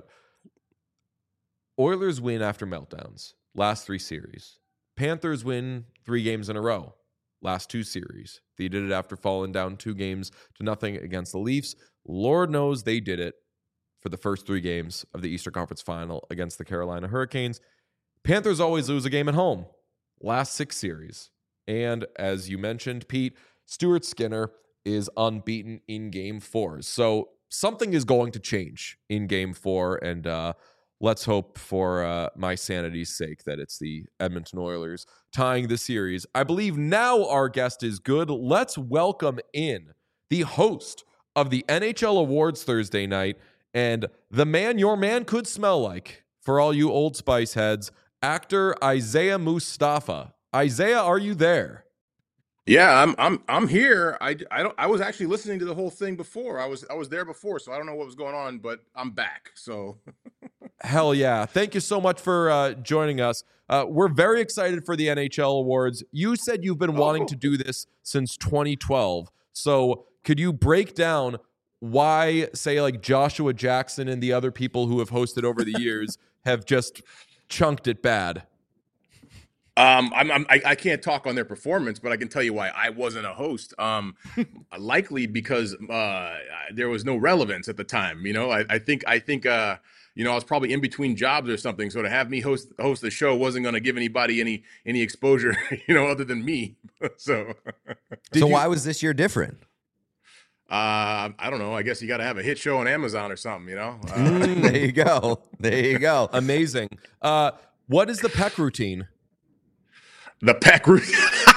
A: Oilers win after meltdowns, last three series. Panthers win three games in a row, last two series. They did it after falling down two games to nothing against the Leafs. Lord knows they did it for the first three games of the Eastern Conference Final against the Carolina Hurricanes. Panthers always lose a game at home, last six series. And as you mentioned, Pete, Stuart Skinner is unbeaten in game four. So something is going to change in game four. And uh, let's hope for uh, my sanity's sake that it's the Edmonton Oilers tying the series. I believe now our guest is good. Let's welcome in the host of the N H L Awards Thursday night and the man your man could smell like for all you Old Spice heads, actor Isaiah Mustafa. Isaiah, are you there?
D: Yeah, I'm I'm I'm here. I, I don't I was actually listening to the whole thing before. I was I was there before, so I don't know what was going on, but I'm back. So
A: hell yeah. Thank you so much for uh, joining us. Uh, we're very excited for the N H L Awards. You said you've been wanting
D: Oh.
A: to do this since twenty twelve. So could you break down why, say, like Joshua Jackson and the other people who have hosted over the years have just chunked it bad?
D: Um, I'm, I'm I, I can't talk on their performance, but I can tell you why I wasn't a host. Um, likely because uh, there was no relevance at the time. You know, I, I think I think uh, you know I was probably in between jobs or something. So to have me host host the show wasn't going to give anybody any any exposure, you know, other than me. so
A: Did
C: so
A: you-
C: why was this year different?
D: uh, I don't know. I guess you got to have a hit show on Amazon or something. You know. Uh,
A: Mm,
C: There you go. There you go.
A: amazing. Uh, what is the Peck routine?
D: The Peck routine.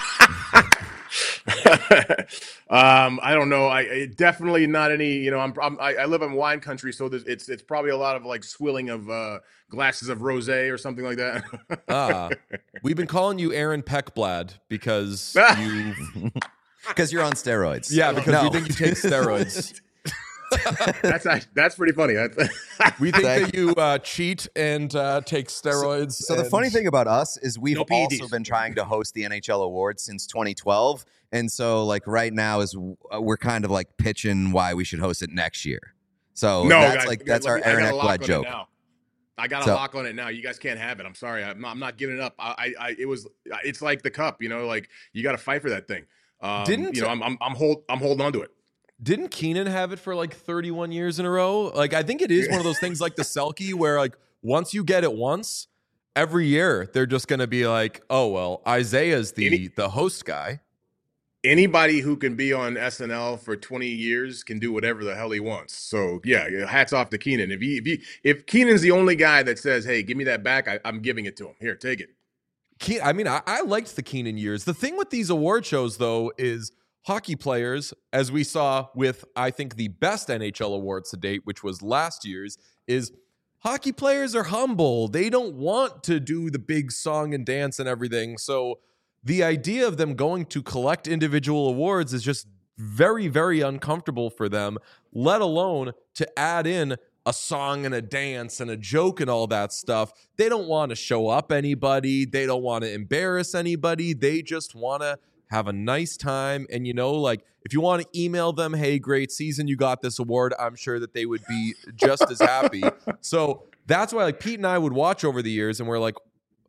D: um, I don't know. I, I definitely not any. You know, I'm, I'm I, I live in wine country, so there's, it's it's probably a lot of like swilling of uh, glasses of rosé or something like that.
A: Ah, we've been calling you Aaron Peckblad because you,
C: Because you're on steroids.
A: yeah, because
C: No.
A: we think you take steroids.
D: that's act- that's pretty funny.
A: We think
C: Thank
A: that you uh, cheat and uh, take steroids.
C: So the
A: and-
C: funny thing about us is we've
D: No P E Ds.
C: also been trying to host the N H L Awards since twenty twelve, and so like right now is uh, we're kind of like pitching why we should host it next year. So
D: no,
C: that's
D: guys,
C: like
D: guys,
C: that's
D: let
C: our
D: me- I
C: Aaron
D: got a lock
C: Ekblad
D: on it
C: joke.
D: now. I got a
C: So-
D: lock on it now. You guys can't have it. I'm sorry. I'm not, I'm not giving it up. I, I, I it was. It's like the cup. You know, like you got to fight for that thing. Um,
A: Didn't-
D: you know? I'm, I'm, I'm hold, I'm holding on to it.
A: Didn't Keenan have it for like thirty-one years in a row? Like, I think it is one of those things like the Selkie where like once you get it once, every year they're just going to be like, oh, well, Isaiah's the,
D: Any-
A: the host guy.
D: Anybody who can be on S N L for twenty years can do whatever the hell he wants. So yeah, hats off to Keenan. If he, if he, if Keenan's the only guy that says, "Hey, give me that back," I, I'm giving it to him. Here, take it.
A: Ke- I mean, I, I liked the Keenan years. The thing with these award shows, though, is hockey players, as we saw with, I think, the best N H L awards to date, which was last year's, is hockey players are humble. They don't want to do the big song and dance and everything. So the idea of them going to collect individual awards is just very, very uncomfortable for them, let alone to add in a song and a dance and a joke and all that stuff. They don't want to show up anybody. They don't want to embarrass anybody. They just want to have a nice time. And, you know, like if you want to email them, hey, great season, you got this award, I'm sure that they would be just as happy. So that's why like Pete and I would watch over the years and we're like,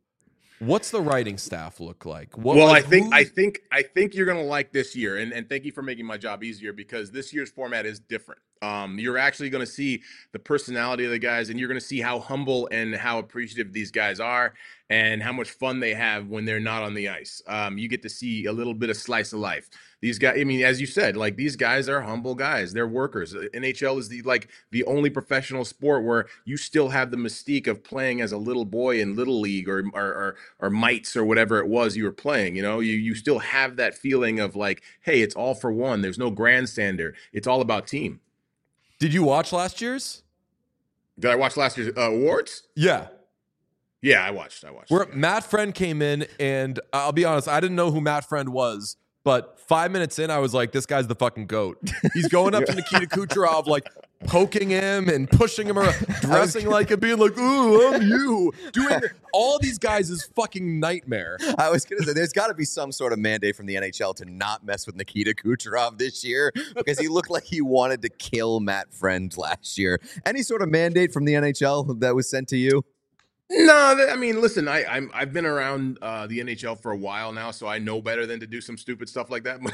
A: what's the writing staff look like? What,
D: well,
A: like,
D: I think
A: who-
D: I think I think you're gonna like this year, and, and thank you for making my job easier because this year's format is different. Um, you're actually gonna see the personality of the guys, and you're gonna see how humble and how appreciative these guys are, and how much fun they have when they're not on the ice. Um, you get to see a little bit of slice of life. These guys, I mean, as you said, like these guys are humble guys. They're workers. N H L is the like the only professional sport where you still have the mystique of playing as a little boy in Little League or or or, or mites or whatever it was you were playing. You know, you you still have that feeling of like, hey, it's all for one. There's no grandstander. It's all about team.
A: Did you watch last year's?
D: Did I watch last year's uh, awards?
A: Yeah.
D: Yeah, I watched. I watched.
A: Where
D: yeah.
A: Matt Friend came in, and I'll be honest, I didn't know who Matt Friend was, but five minutes in, I was like, this guy's the fucking GOAT. He's going up to Nikita Kucherov, like poking him and pushing him around, dressing like him, being like, ooh, I'm you. Doing all these guys is fucking nightmare.
C: I was going to say, there's got to be some sort of mandate from the N H L to not mess with Nikita Kucherov this year because he looked like he wanted to kill Matt Friend last year. Any sort of mandate from the N H L that was sent to you?
D: No, I mean, listen, I, I'm I've been around uh, the N H L for a while now, so I know better than to do some stupid stuff like that.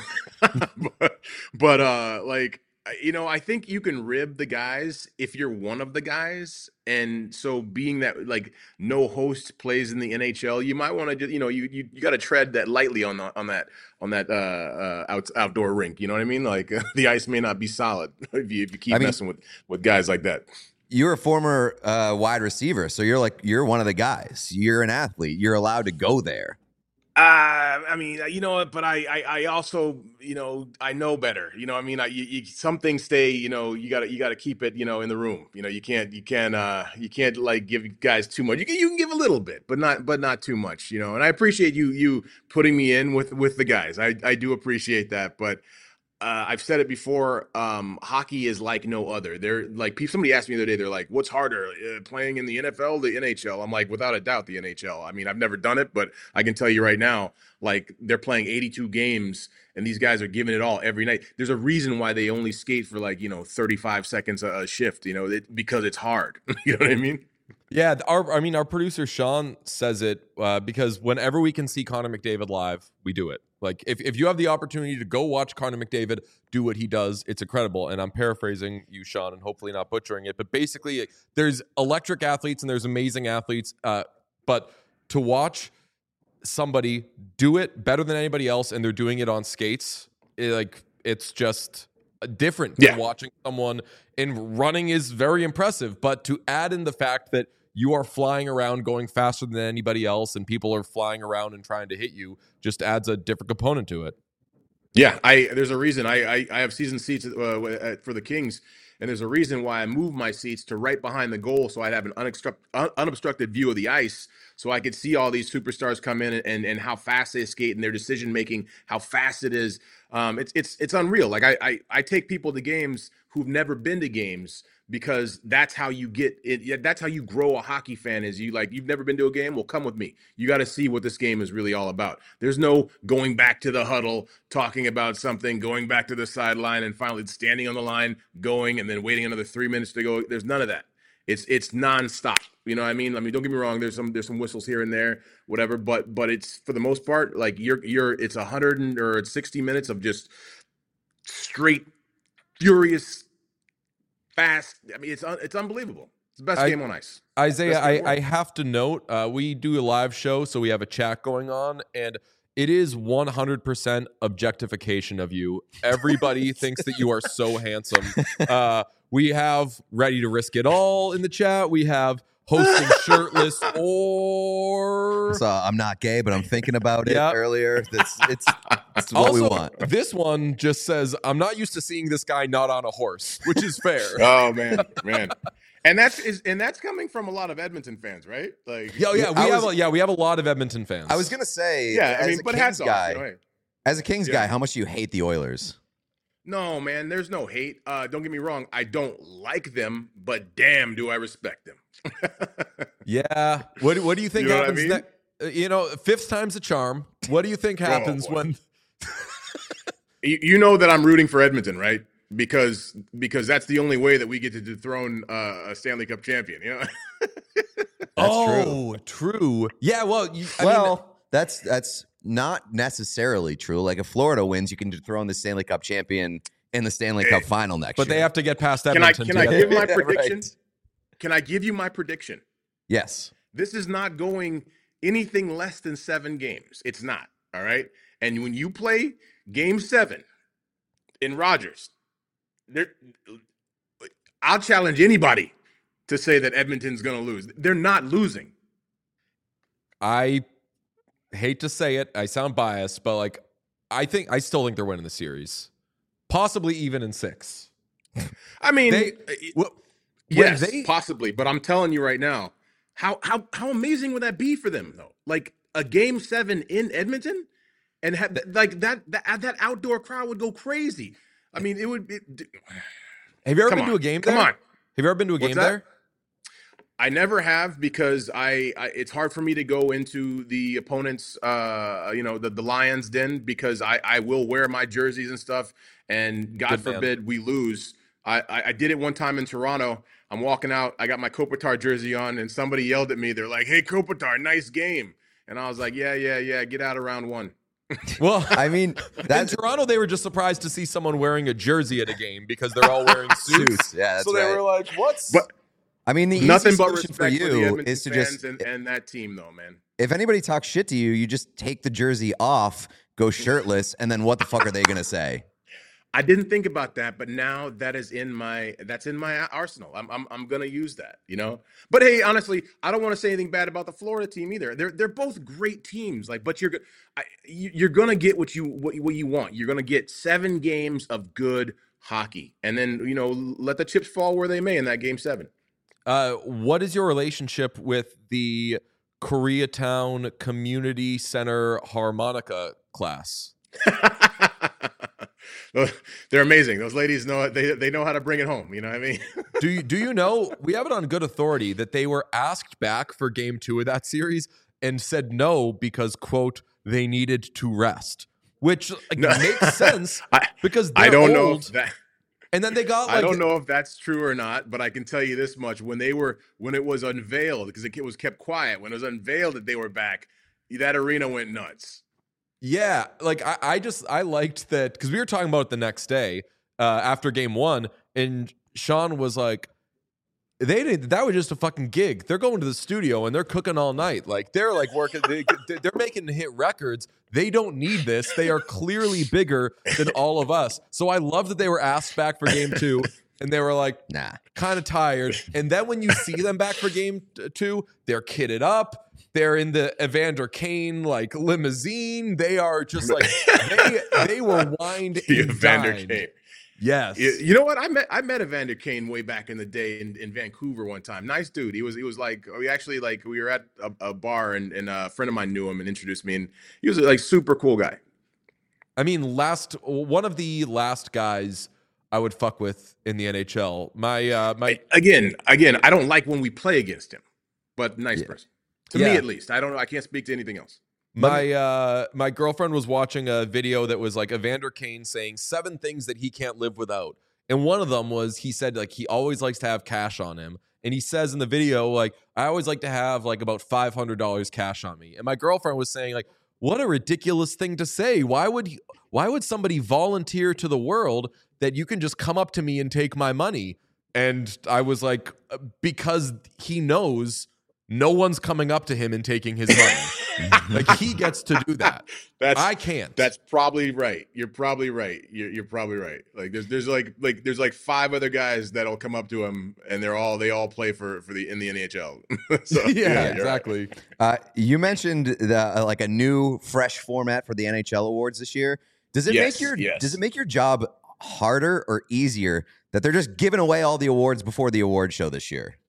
D: but, but uh, like you know, I think you can rib the guys if you're one of the guys, and so being that like no host plays in the N H L, you might want to just you know you you, you got to tread that lightly on the, on that on that uh, uh, out, outdoor rink. You know what I mean? Like the ice may not be solid if you if you keep
C: I mean,
D: messing with with guys like that.
C: You're a former uh, wide receiver, so you're like you're one of the guys. You're an athlete. You're allowed to go there.
D: Uh, I mean, you know, but I, I, I also, you know, I know better. You know, I mean, I, you, you, some things stay. You know, you gotta, you gotta keep it. You know, in the room. You know, you can't, you can't, uh, you can't like give guys too much. You can, you can give a little bit, but not, but not too much. You know, and I appreciate you, you putting me in with, with the guys. I, I do appreciate that, but. Uh, I've said it before. Um, hockey is like no other. They're like somebody asked me the other day. They're like, "What's harder, uh, playing in the N F L, or the N H L?" I'm like, without a doubt, the N H L. I mean, I've never done it, but I can tell you right now, like they're playing eighty-two games, and these guys are giving it all every night. There's a reason why they only skate for like you know thirty-five seconds a, a shift. You know, it, because it's hard. You know what I mean?
A: Yeah, our I mean, our producer Sean says it uh, because whenever we can see Connor McDavid live, we do it. Like if, if you have the opportunity to go watch Connor McDavid do what he does, it's incredible. And I'm paraphrasing you, Sean, and hopefully not butchering it. But basically, there's electric athletes and there's amazing athletes. Uh, but to watch somebody do it better than anybody else, and they're doing it on skates, it, like it's just different
D: yeah.
A: than watching someone. And running is very impressive, but to add in the fact that you are flying around going faster than anybody else and people are flying around and trying to hit you just adds a different component to it.
D: Yeah, I there's a reason I I, I have season seats uh, for the Kings, and there's a reason why I moved my seats to right behind the goal so I'd have an unobstructed, un, unobstructed view of the ice so I could see all these superstars come in and, and, and how fast they skate and their decision making, how fast it is. Um, it's it's it's unreal. Like I, I I take people to games who've never been to games because that's how you get it. That's how you grow a hockey fan. Is you like you've never been to a game? Well, come with me. You got to see what this game is really all about. There's no going back to the huddle, talking about something, going back to the sideline, and finally standing on the line, going, and then waiting another three minutes to go. There's none of that. It's it's nonstop. You know what I mean? I mean, don't get me wrong. There's some there's some whistles here and there, whatever. But but it's for the most part like you're you're it's a hundred and, or it's sixty minutes of just straight furious. Fast. I mean, it's it's unbelievable. It's the best
A: I,
D: game on ice.
A: Isaiah, I, I have to note, uh, we do a live show, so we have a chat going on, and it is one hundred percent objectification of you. Everybody thinks that you are so handsome. Uh, we have Ready to Risk It All in the chat. We have hosting shirtless or...
C: So I'm not gay, but I'm thinking about it
A: Yep.
C: earlier. That's it's, it's what
A: also,
C: we want.
A: This one just says, I'm not used to seeing this guy not on a horse, which is fair.
D: Oh man, man. And that's is and that's coming from a lot of Edmonton fans, right? Like,
A: Yo, yeah, we
C: I
A: have
C: was-
A: a, yeah, we have a lot of Edmonton fans.
C: I was gonna say,
D: yeah.
C: as
D: I mean,
C: a
D: but
C: Kings
D: hats
C: guy,
D: off. You know, hey.
C: as a Kings
D: Yeah.
C: guy, how much do you hate the Oilers?
D: No, man, there's no hate. Uh, don't get me wrong. I don't like them, but damn, do I respect them.
A: Yeah. What What do you think
D: You know what I
A: happens
D: mean?
A: next? Uh, you know, fifth time's a charm. What do you think happens
D: boy.
A: when?
D: you, you know that I'm rooting for Edmonton, right? Because because that's the only way that we get to dethrone uh, a Stanley Cup champion. You know.
C: That's
A: oh, true. Yeah. Well, you, I
C: well,
A: mean,
C: that's that's not necessarily true. Like if Florida wins, you can dethrone the Stanley Cup champion in the Stanley Cup final next
A: but
C: year.
A: they have to get past
D: Can I
A: Edmonton.
D: can
A: to
D: I
A: get-
D: give my
C: Yeah,
D: prediction?
C: right.
D: Can I give you my prediction?
C: Yes.
D: This is not going anything less than seven games. It's not. All right. And when you play game seven in Rogers, there, I'll challenge anybody to say that Edmonton's going to lose. They're not losing.
A: I hate to say it. I sound biased, but like, I think I still think they're winning the series, possibly even in six.
D: I mean,
A: They-
D: uh,
A: Well, when
D: yes,
A: they-
D: possibly. But I'm telling you right now, how how how amazing would that be for them though? Like a game seven in Edmonton, and ha- like that that that outdoor crowd would go crazy. I mean, it would. It,
A: Have you ever
D: Come
A: been to
D: on.
A: a game
D: Come
A: there?
D: on.
A: Have you ever been to a
D: What's
A: game
D: that?
A: there?
D: I never have because I, I it's hard for me to go into the opponent's uh you know the, the Lions den because I, I will wear my jerseys and stuff and God
A: Good man.
D: forbid we lose. I, I, I did it one time in Toronto. I'm walking out, I got my Kopitar jersey on and somebody yelled at me. They're like, "Hey Kopitar, nice game." And I was like, "Yeah, yeah, yeah, get out of round one."
A: Well,
C: I mean,
A: in
C: that's
A: Toronto, they were just surprised to see someone wearing a jersey at a game because they're all wearing suits.
C: suits. Yeah, that's
A: so they
C: right.
A: were like, "What's?"
D: But
C: I mean, the
D: nothing
C: easy
D: but
C: solution
D: respect
C: for
D: for, the
C: you
D: Edmonton
C: is to
D: fans
C: just,
D: and, and that team though, man.
C: if anybody talks shit to you, you just take the jersey off, go shirtless, and then what the fuck are they gonna say?
D: I didn't think about that, but now that is in my that's in my arsenal. I'm I'm I'm gonna use that, you know. But hey, honestly, I don't want to say anything bad about the Florida team either. They're they're both great teams. Like, but you're go- I, you- you're gonna get what you what, you- what you want. You're gonna get seven games of good hockey, and then you know let the chips fall where they may in that game seven.
A: Uh, what is your relationship with the Koreatown Community Center harmonica class?
D: They're amazing. Those ladies know they they know how to bring it home. You know what I mean?
A: Do you do you know? We have it on good authority that they were asked back for game two of that series and said no because quote they needed to rest, which like,
D: No.
A: makes sense
D: I
A: because they're
D: I don't know
A: old.
D: if that.
A: And then they got like
D: I don't know if that's true or not, but I can tell you this much: when they were, when it was unveiled, because it was kept quiet, when it was unveiled that they were back, that arena went nuts.
A: Yeah, like I, I just I liked that because we were talking about it the next day uh, after game one, and Sean was like, "They did that was just a fucking gig. They're going to the studio and they're cooking all night. Like they're like working. They, they're making hit records. They don't need this. They are clearly bigger than all of us. So I love that they were asked back for game two, and they were like,
C: Nah.
A: kind of tired. And then when you see them back for game t- two, they're kitted up. They're in the Evander Kane like limousine. They are just like they they were wined
D: The
A: and
D: Evander
A: dined.
D: Kane.
A: Yes.
D: You, you know what? I met I met Evander Kane way back in the day in, in Vancouver one time. Nice dude. He was he was like we actually like we were at a, a bar and, and a friend of mine knew him and introduced me and he was like super cool guy.
A: I mean, last one of the last guys I would fuck with in the N H L. My uh my
D: Again, again, I don't like when we play against him, but nice
C: Yeah.
D: person. To
A: Yeah.
D: me at least. I don't know. I can't speak to anything else.
A: My uh my girlfriend was watching a video that was like Evander Kane saying seven things that he can't live without. And one of them was he said like he always likes to have cash on him. And he says in the video like I always like to have like about five hundred dollars cash on me. And my girlfriend was saying like what a ridiculous thing to say. Why would he, why would somebody volunteer to the world that you can just come up to me and take my money? And I was like because he knows no one's coming up to him and taking his money. Like he gets to do that.
D: That's
A: I can't.
D: That's probably right. You're probably right. You're, you're probably right. Like there's there's like like there's like five other guys that'll come up to him and they're all they all play for for the in the N H L. So,
A: yeah,
D: you're right.
A: exactly.
C: Uh, you mentioned the uh, like a new, fresh format for the N H L awards this year. Does it
D: Yes,
C: make your
D: yes.
C: Does it make your job harder or easier that they're just giving away all the awards before the award show this year?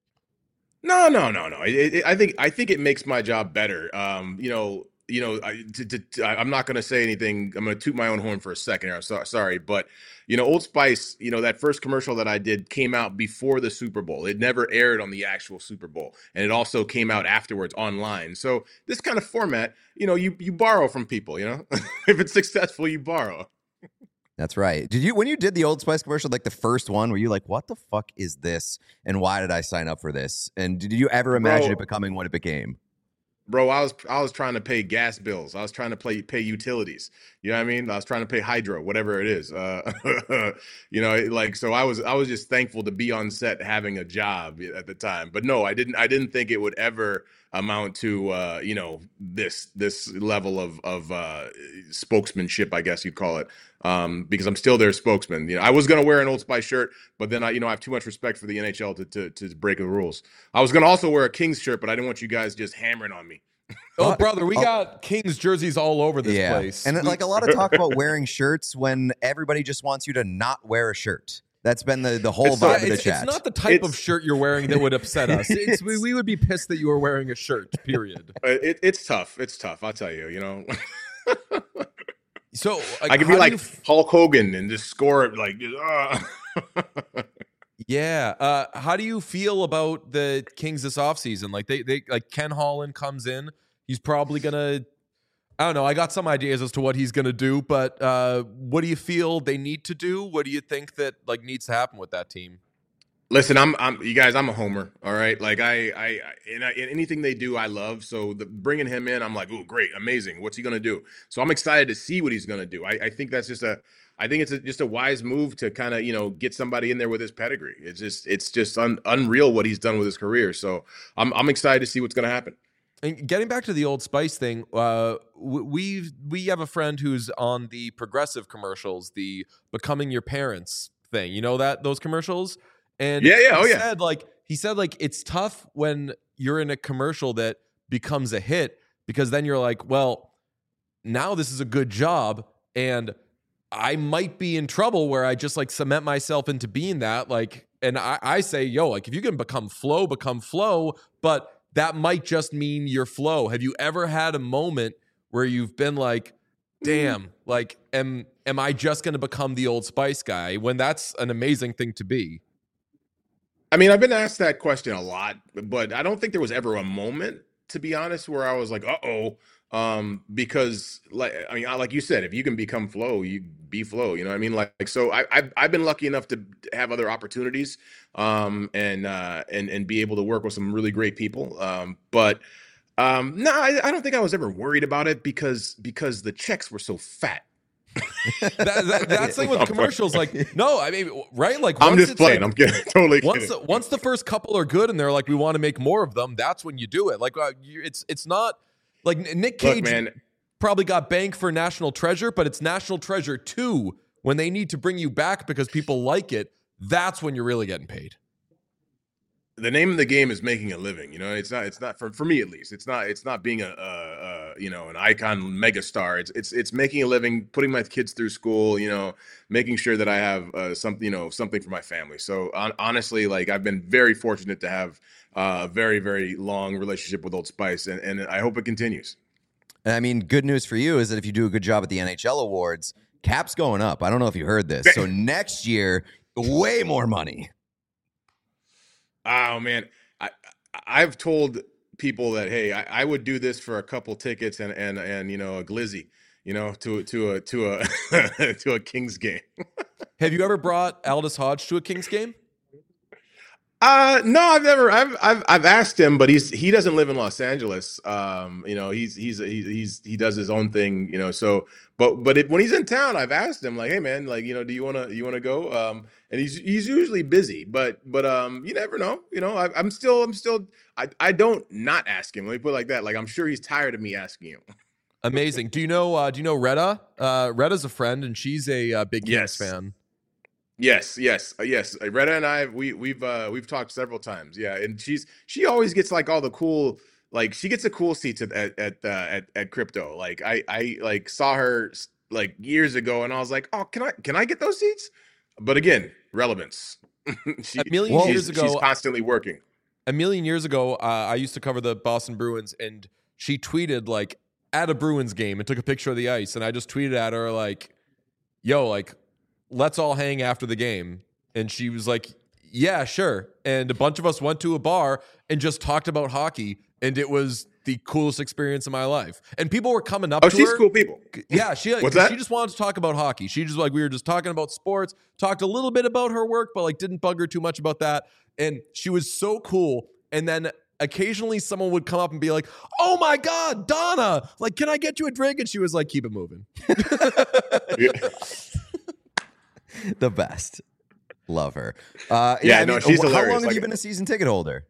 D: No, no, no, no. It, it, I think I think it makes my job better. Um, you know, you know, I, to, to, to- I- I'm not going to say anything. I'm going to toot my own horn for a second here. I'm so, sorry, but you know, Old Spice. You know, that first commercial that I did came out before the Super Bowl. It never aired on the actual Super Bowl, and it also came out afterwards online. So this kind of format, you know, you you borrow from people. You know, if it's successful, you borrow.
C: That's right. Did you when you did the Old Spice commercial, like the first one, were you like, "What the fuck is this?" And why did I sign up for this? And did you ever imagine
D: Bro,
C: it becoming what it became?
D: Bro, I was I was trying to pay gas bills. I was trying to pay pay utilities. You know what I mean? I was trying to pay hydro, whatever it is. Uh, you know, like so. I was I was just thankful to be on set having a job at the time. But no, I didn't I didn't think it would ever amount to uh, you know this this level of of uh, spokesmanship, I guess you'd call it. Um, because I'm still their spokesman. You know, I was gonna wear an Old Spice shirt, but then I you know I have too much respect for the N H L to to, to break the rules. I was gonna also wear a Kings shirt, but I didn't want you guys just hammering on me.
A: Oh,
C: Uh,
A: brother, we
C: oh.
A: got Kings jerseys all over this
C: yeah.
A: place.
C: And
A: We-
C: like a lot of talk about wearing shirts when everybody just wants you to not wear a shirt. That's been the, the whole
D: It's, uh,
C: vibe
A: Yeah,
C: of the
A: it's,
C: chat.
A: it's not the type of
D: It's-
A: shirt you're wearing that would upset us. It's, we, we would be pissed that you were wearing a shirt, period.
D: Uh, It, it's tough. It's tough. I'll tell you. You know,
A: So like,
D: I could
A: how
D: be
A: do
D: like
A: you f-
D: Hulk Hogan and just score it like. Uh.
A: yeah. Uh, how do you feel about the Kings this offseason? Like they, they like Ken Holland comes in. He's probably gonna. I don't know. I got some ideas as to what he's gonna do, but uh, what do you feel they need to do? What do you think that like needs to happen with that team?
D: Listen, I'm, I'm, you guys. I'm a homer. All right, like I, I, I in, in anything they do, I love. So the, bringing him in, I'm like, oh, great, amazing. What's he gonna do? So I'm excited to see what he's gonna do. I, I think that's just a, I think it's a, just a wise move to kind of, you know, get somebody in there with his pedigree. It's just, it's just un, unreal what he's done with his career. So I'm, I'm excited to see what's gonna happen.
A: And getting back to the Old Spice thing, uh, we we have a friend who's on the progressive commercials, the becoming your parents thing. You know that those commercials, and
D: Yeah, yeah,
A: he
D: oh, yeah.
A: said like he said like it's tough when you're in a commercial that becomes a hit because then you're like, well, now this is a good job, and I might be in trouble where I just like cement myself into being that. Like, and I, I say, yo, like if you can become Flow, become Flow, but that might just mean your Flow. Have you ever had a moment where you've been like, damn, like, am am I just going to become the Old Spice guy when that's an amazing thing to be?
D: I mean, I've been asked that question a lot, but I don't think there was ever a moment, to be honest, where I was like, "Uh oh," um, because, like, I mean, I- like you said, if you can become Flow, you be Flow. You know what I mean? Like, like, so I, I've I've been lucky enough to have other opportunities, um, and uh, and and be able to work with some really great people. Um, but um, no, I, I don't think I was ever worried about it because because the checks were so fat.
A: That, that, that's like with
D: I'm
A: commercials. Like, no, I mean, right? Like,
D: I'm
A: once
D: just
A: it's
D: playing.
A: like-
D: I'm kidding. Totally
A: once
D: kidding.
A: the, once the first couple are good and they're like, we want to make more of them, that's when you do it. Like, uh, you, it's it's not like Nick Cage
D: Look, man.
A: probably got banked for National Treasure, but it's National Treasure two when they need to bring you back because people like it. That's when you're really getting paid.
D: The name of the game is making a living. You know, it's not. It's not for for me at least. It's not. It's not being a, a, a you know an icon megastar. It's it's it's making a living, putting my kids through school. You know, making sure that I have uh, something. You know, something for my family. So on, honestly, like I've been very fortunate to have uh, a very very long relationship with Old Spice, and and I hope it continues.
C: And I mean, good news for you is that if you do a good job at the N H L awards, cap's going up. I don't know if you heard this. So next year, way more money.
D: Oh man, I I've told people that hey, I, I would do this for a couple tickets and and and you know a glizzy, you know, to to a to a to a Kings game.
A: Have you ever brought Aldous Hodge to a Kings game?
D: Uh no, I've never. I've I've I've asked him, but he's he doesn't live in Los Angeles. Um, you know, he's he's he's, he's he does his own thing. You know, so but but it, when he's in town, I've asked him like, hey man, like you know, do you wanna you wanna go? Um, and he's he's usually busy, but but um, you never know. You know, I, I'm still I'm still I I don't not ask him. Let me put it like that. Like I'm sure he's tired of me asking him.
A: Amazing. Do you know? Uh, do you know Retta? Uh, Retta's a friend, and she's a uh, big Kings
D: Yes.
A: fan.
D: Yes, yes, uh, yes. Uh, Retta and I, we we've uh, we've talked several times. Yeah, and she's she always gets like all the cool, like she gets the cool seats at at at, uh, at, at crypto. Like I I like saw her like years ago, and I was like, oh, can I can I get those seats? But again, relevance. she,
A: A million
C: Well,
A: years
D: she's,
A: ago,
D: she's constantly working.
A: a million years ago, uh, I used to cover the Boston Bruins, and she tweeted like at a Bruins game and took a picture of the ice, and I just tweeted at her like, "Yo, like, let's all hang after the game," and she was like, "Yeah, sure." And a bunch of us went to a bar and just talked about hockey, and it was the coolest experience of my life. And people were coming up
D: Oh,
A: to
D: she's
A: her.
D: cool people.
A: Yeah, she
D: What's that?
A: she just wanted to talk about hockey. She just like we were just talking about sports, talked a little bit about her work, but like didn't bug her too much about that. And she was so cool. And then occasionally someone would come up and be like, "Oh my God, Donna, like, can I get you a drink?" And she was like, "Keep it moving."
C: The best. Love her. Uh,
D: Yeah,
C: I
D: no,
C: mean,
D: she's
C: How
D: hilarious.
C: long have
D: Like-
C: you been a season ticket holder?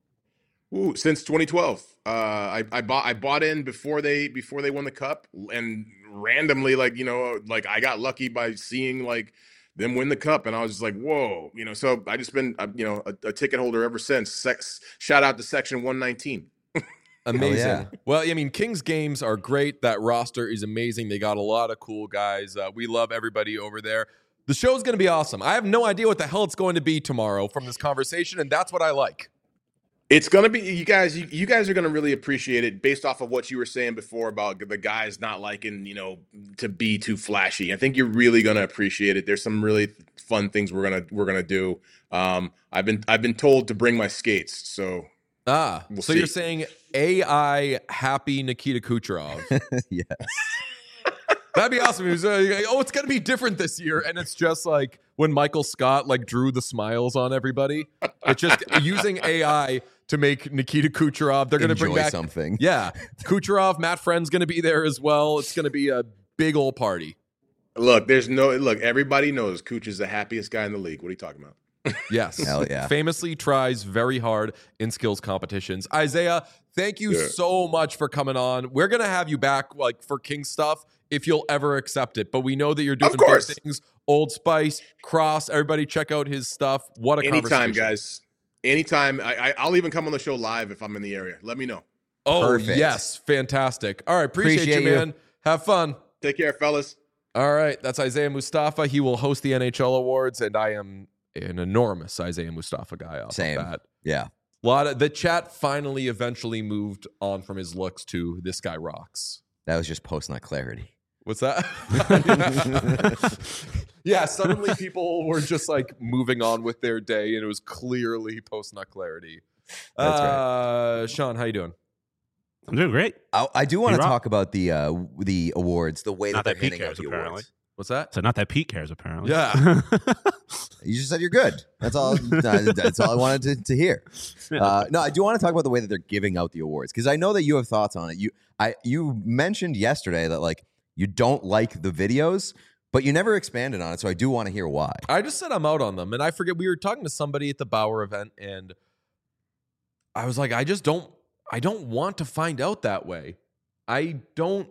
D: Ooh, since twenty twelve. Uh, I, I bought I bought in before they before they won the cup, and randomly, like you know, like I got lucky by seeing like them win the cup, and I was just like, whoa, you know. So I just been uh, you know a, a ticket holder ever since. Sex, shout out to Section one nineteen.
A: Amazing.
C: yeah.
A: Well, I mean, Kings games are great. That roster is amazing. They got a lot of cool guys. Uh, we love everybody over there. The show's going to be awesome. I have no idea what the hell it's going to be tomorrow from this conversation, and that's what I like.
D: It's gonna be you guys. You, you guys are gonna really appreciate it based off of what you were saying before about the guys not liking you know to be too flashy. I think you're really gonna appreciate it. There's some really fun things we're gonna we're gonna do. Um, I've been I've been told to bring my skates, so
A: Ah,
D: We'll
A: so
D: see.
A: you're saying A I happy Nikita Kucherov.
C: Yes.
A: That'd be awesome. He was, uh, oh, it's going to be different this year. And it's just like when Michael Scott like drew the smiles on everybody. It's just using A I to make Nikita Kucherov. They're going to bring
C: Enjoy
A: back
C: something.
A: Yeah. Kucherov, Matt Friend's going to be there as well. It's going to be a big old party.
D: look, there's no look. Everybody knows Cooch is the happiest guy in the league. What are you talking about?
A: Yes.
C: Hell yeah.
A: Famously tries very hard in skills competitions. Isaiah, thank you
D: Yeah.
A: so much for coming on. We're going to have you back like for King stuff if you'll ever accept it. But we know that you're doing
D: Of
A: big
D: course.
A: things. Old Spice, Cross, everybody check out his stuff. What a
D: Anytime,
A: conversation.
D: guys. Anytime. I, I I'll even come on the show live if I'm in the area. Let me know.
A: Oh,
C: Perfect.
A: yes. Fantastic. All right. Appreciate,
C: Appreciate
A: you,
C: you.
A: man. Have fun.
D: Take care, fellas.
A: All right. That's Isaiah Mustafa. He will host the N H L Awards, and I am an enormous Isaiah Mustafa guy off
C: Same.
A: of that.
C: Yeah.
A: A lot of the chat finally eventually moved on from his looks to this guy rocks.
C: That was just post nut clarity.
A: What's that? Yeah, suddenly people were just like moving on with their day, and it was clearly post nut clarity.
C: That's right.
A: uh, Sean, how you doing?
B: I'm doing great.
C: I, I do want to
B: You rock.
C: talk about the uh, the awards, the way
B: Not
C: that
B: that
C: they're
B: Pete
C: handing out
B: cares,
C: the
B: apparently.
C: awards.
A: What's that?
B: So not that Pete cares, apparently.
A: Yeah.
C: You just said you're good. That's all. That's all I wanted to, to hear. Uh, no, I do want to talk about the way that they're giving out the awards because I know that you have thoughts on it. You, I, you mentioned yesterday that like you don't like the videos, but you never expanded on it. So I do want to hear why.
A: I just said I'm out on them, and I forget we were talking to somebody at the Bauer event, and I was like, I just don't, I don't want to find out that way. I don't,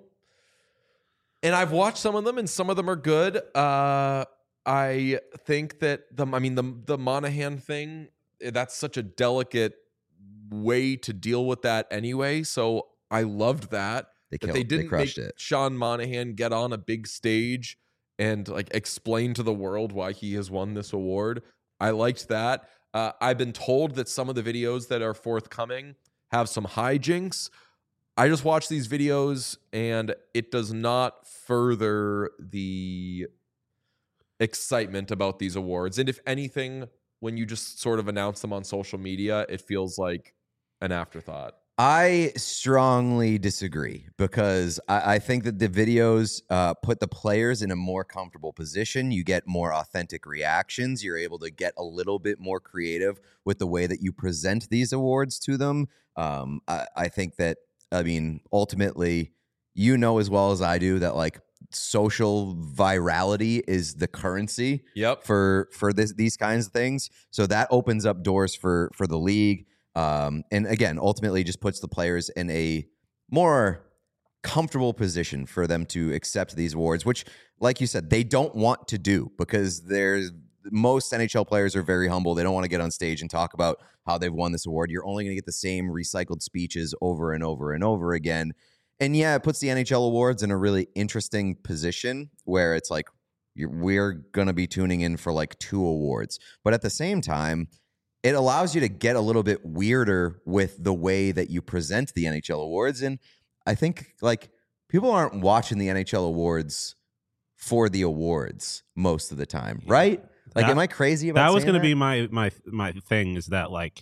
A: and I've watched some of them, and some of them are good. Uh, I think that the, I mean, the the Monahan thing, that's such a delicate way to deal with that anyway. So I loved that.
C: They
A: that
C: killed.
A: they
C: They,
A: didn't
C: crushed
A: make
C: it.
A: Sean Monahan get on a big stage and like explain to the world why he has won this award. I liked that. Uh, I've been told that some of the videos that are forthcoming have some hijinks. I just watch these videos and it does not further the excitement about these awards. And if anything, when you just sort of announce them on social media, it feels like an afterthought.
C: I strongly disagree because I, I think that the videos uh, put the players in a more comfortable position. You get more authentic reactions. You're able to get a little bit more creative with the way that you present these awards to them. Um, I, I think that, I mean, ultimately, you know as well as I do that like social virality is the currency
A: Yep.
C: for for this these kinds of things. So that opens up doors for for the league. Um, and again, ultimately just puts the players in a more comfortable position for them to accept these awards, which, like you said, they don't want to do because there's most N H L players are very humble. They don't want to get on stage and talk about how they've won this award. You're only going to get the same recycled speeches over and over and over again. And yeah, it puts the N H L awards in a really interesting position where it's like you're, we're going to be tuning in for like two awards. But at the same time, it allows you to get a little bit weirder with the way that you present the N H L awards. And I think like people aren't watching the N H L awards for the awards most of the time, right? Like,
B: That-
C: am I crazy about
B: That was
C: saying
B: going to be my my my thing. Is that like,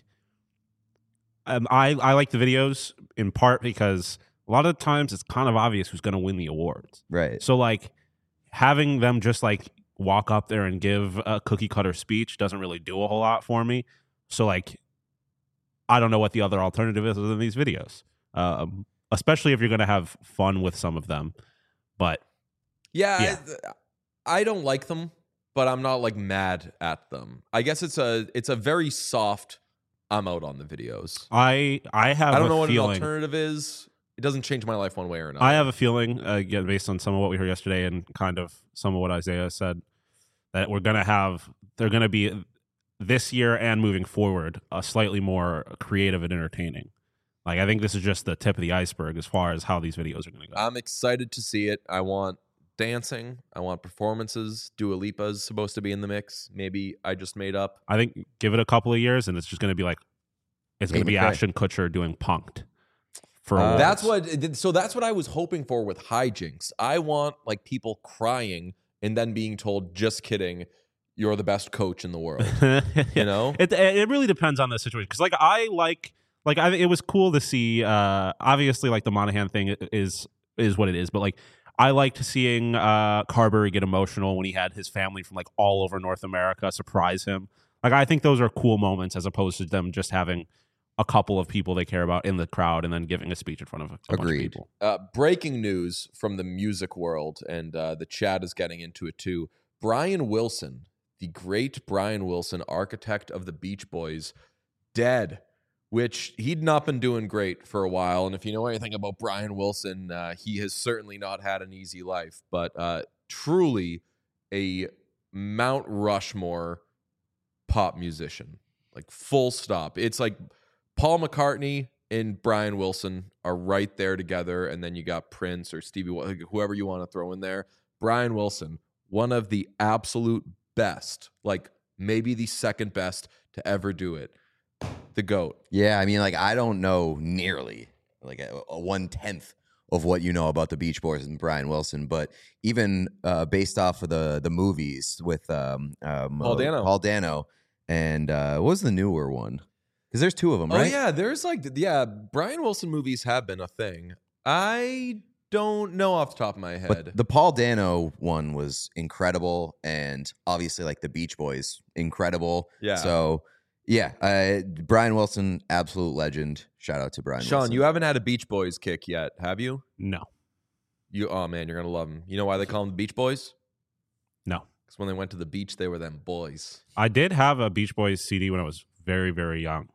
B: um, I I like the videos in part because a lot of times it's kind of obvious who's going to win the awards.
C: right?
B: So like having them just like walk up there and give a cookie cutter speech doesn't really do a whole lot for me. So like, I don't know what the other alternative is other than these videos, um, especially if you're going to have fun with some of them. But
A: Yeah,
B: Yeah.
A: I, I don't like them, but I'm not like mad at them. I guess it's a it's a very soft. I'm out on the videos.
B: I I have
A: I don't
B: a
A: know what
B: feeling,
A: an alternative is. It doesn't change my life one way or another.
B: I have a feeling, uh, again, based on some of what we heard yesterday and kind of some of what Isaiah said, that we're going to have, they're going to be this year and moving forward, a slightly more creative and entertaining. Like, I think this is just the tip of the iceberg as far as how these videos are going to go.
A: I'm excited to see it. I want dancing. I want performances. Dua Lipa's supposed to be in the mix. Maybe I just made up.
B: I think give it a couple of years and it's just going to be like, it's going to
C: Tate
B: be
C: McRae.
B: Ashton Kutcher doing Punked. For
C: Uh,
B: awards.
A: That's what. So that's what I was hoping for with hijinks. I want like people crying and then being told, "Just kidding, you're the best coach in the world." You know,
B: It it really depends on the situation because like I like like I it was cool to see. Uh, obviously, like the Monahan thing is is what it is, but like I liked seeing uh, Carberry get emotional when he had his family from like all over North America surprise him. Like I think those are cool moments as opposed to them just having a couple of people they care about in the crowd and then giving a speech in front of a, a bunch of
C: Agreed.
B: people.
A: uh, breaking news from the music world, and uh, the chat is getting into it too. Brian Wilson, the great Brian Wilson, architect of the Beach Boys, dead. Which he'd not been doing great for a while. And if you know anything about Brian Wilson, uh, he has certainly not had an easy life. But uh, truly a Mount Rushmore pop musician, like full stop. It's like Paul McCartney and Brian Wilson are right there together. And then you got Prince or Stevie, Wonder, whoever you want to throw in there. Brian Wilson, one of the absolute best, like maybe the second best to ever do it. The GOAT.
C: Yeah, I mean, like I don't know nearly like a, a one tenth of what you know about the Beach Boys and Brian Wilson, but even uh, based off of the the movies with um, um
A: Paul
C: uh,
A: Dano.
C: Paul Dano, and uh, what was the newer one? Because there's two of them,
A: Oh
C: right?
A: yeah, there's like yeah, Brian Wilson movies have been a thing. I don't know off the top of my head.
C: But the Paul Dano one was incredible, and obviously, like the Beach Boys, incredible.
A: Yeah.
C: So yeah, uh, Brian Wilson, absolute legend. Shout out to Brian.
A: Sean,
C: Wilson.
A: you haven't had a Beach Boys kick yet, have you?
B: No,
A: You oh man, you're gonna love them. You know why they call them the Beach Boys?
B: no.
A: Because when they went to the beach, they were them boys.
B: I did have a Beach Boys C D when I was very, very young.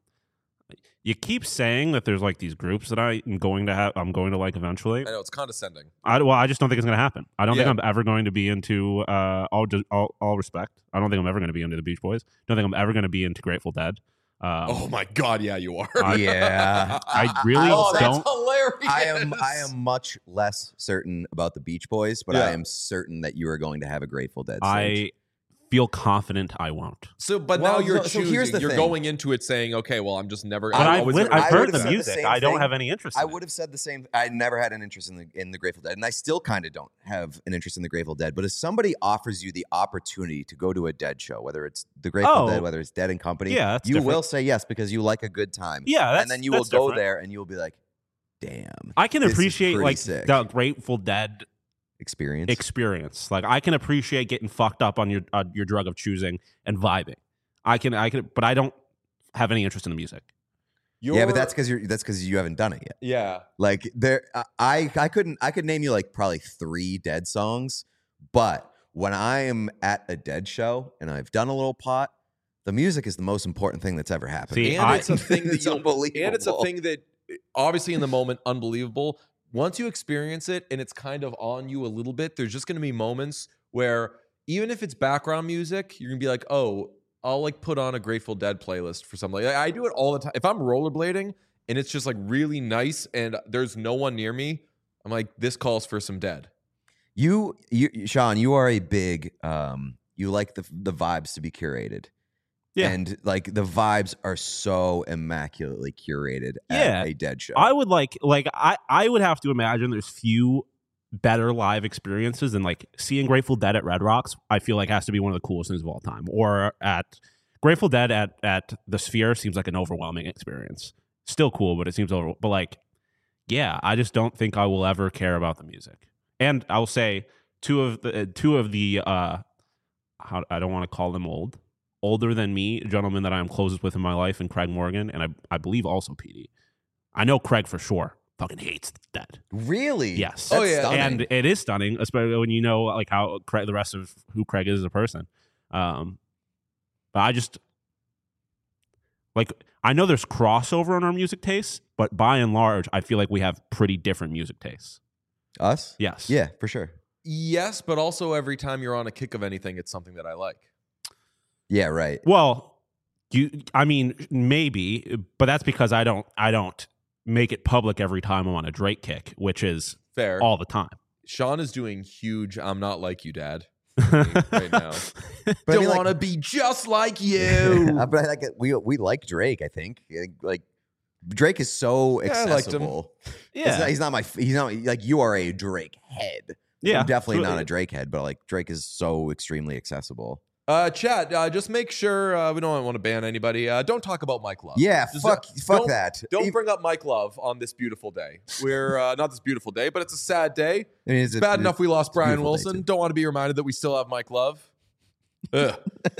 B: You keep saying that there's like these groups that I am going to have, I'm going to like eventually.
A: I know it's condescending.
B: I, well, I just don't think it's going to happen. I don't
A: Yeah.
B: think I'm ever going to be into uh, all, all all respect. I don't think I'm ever going to be into the Beach Boys. Don't think I'm ever going to be into Grateful Dead. Um,
A: Oh my god, yeah, you are.
B: I-
C: Yeah.
B: I really
A: oh, that's
B: don't-
A: hilarious.
C: I am I am much less certain about the Beach Boys, but
A: Yeah.
C: I am certain that you are going to have a Grateful Dead stage.
B: I feel confident I won't.
A: So, but
C: Well,
A: now you're
C: so- so
A: choosing.
C: here's the
A: you're
C: thing.
A: going into it saying, okay, well, I'm just never.
B: But
A: I'm
B: I've,
A: always
B: li-
A: gonna
B: I've
C: I
B: heard
C: would've
B: the
C: said the
B: music.
C: same
B: I don't
C: thing.
B: have any interest
C: I
B: in
C: would have said the same. I never had an interest in the in the Grateful Dead, and I still kind of don't have an interest in the Grateful Dead. But if somebody offers you the opportunity to go to a Dead show, whether it's the Grateful
B: Oh.
C: Dead, whether it's Dead and Company,
B: Yeah, that's
C: you
B: different.
C: will say yes because you like a good time.
B: it. Yeah, that's,
C: and then you will
B: that's
C: go
B: different.
C: there and you will be like, "Damn,
B: I can
C: This is
B: appreciate
C: pretty
B: like
C: sick.
B: the Grateful Dead
C: experience."
B: experience. Like I can appreciate getting fucked up on your uh, your drug of choosing and vibing. I can I can, but I don't have any interest in the music.
C: yeah,
A: You're-
C: but that's because you're that's because you haven't done it yet.
A: yeah.
C: Like there, I I couldn't I could name you like probably three Dead songs, but when I am at a Dead show and I've done a little pot, the music is the most important thing that's ever happened.
B: See,
A: And
B: I-
A: it's a thing that
C: It's
A: you'll,
C: unbelievable.
A: and it's a thing that obviously in the moment unbelievable. Once you experience it and it's kind of on you a little bit, there's just going to be moments where even if it's background music, you're going to be like, "Oh, I'll like put on a Grateful Dead playlist for something." Like, I do it all the time. If I'm rollerblading and it's just like really nice and there's no one near me, I'm like, this calls for some Dead.
C: You, you, Sean, you are a big. Um, you like the the vibes to be curated.
B: Yeah.
C: And like the vibes are so immaculately curated
B: Yeah.
C: at a Dead show.
B: I would like like I I would have to imagine there's few better live experiences than like seeing Grateful Dead at Red Rocks. I feel like has to be one of the coolest things of all time. Or at Grateful Dead at at the Sphere seems like an overwhelming experience. Still cool, but it seems over. But like, yeah, I just don't think I will ever care about the music. And I will say two of the two of the uh, how, I don't want to call them old. Older than me, gentlemen that I am closest with in my life, and Craig Morgan, and I, I believe also P D. I know Craig for sure fucking hates Dead.
C: Really?
B: Yes.
C: That's
A: Oh, yeah.
C: stunning.
B: And it is stunning, especially when you know like how Craig, the rest of who Craig is as a person. Um, but I just like I know there's crossover in our music tastes, but by and large, I feel like we have pretty different music tastes.
C: Us?
B: Yes.
C: Yeah, for sure.
A: Yes, but also every time you're on a kick of anything, it's something that I like.
C: Yeah, right.
B: Well, you. I mean, maybe, but that's because I don't. I don't make it public every time I'm on a Drake kick, which is
A: Fair.
B: all the time.
A: Sean is doing huge I'm not like you, Dad right now.
C: But I
A: Don't
C: mean, like-
A: want to be just like you.
C: Uh, but I like it. we we like Drake. I think like Drake is so
A: Yeah, I liked him.
C: accessible.
B: Yeah.
C: It's not- he's not my. He's not like you are a Drake head.
B: Yeah,
C: I'm definitely
B: so-
C: not a Drake head, but like Drake is so extremely accessible.
A: Uh, chat, uh, just make sure uh, we don't want to ban anybody. Uh, don't talk about Mike Love.
C: Yeah,
A: Just,
C: fuck,
A: uh,
C: fuck
A: don't-
C: that.
A: Don't
C: Even-
A: bring up Mike Love on this beautiful day. We're uh, not this beautiful day, but it's a sad day.
C: I mean,
A: It's bad enough we lost Brian
C: beautiful day,
A: Wilson.
C: too.
A: Don't want to be reminded that we still have Mike Love. Ugh.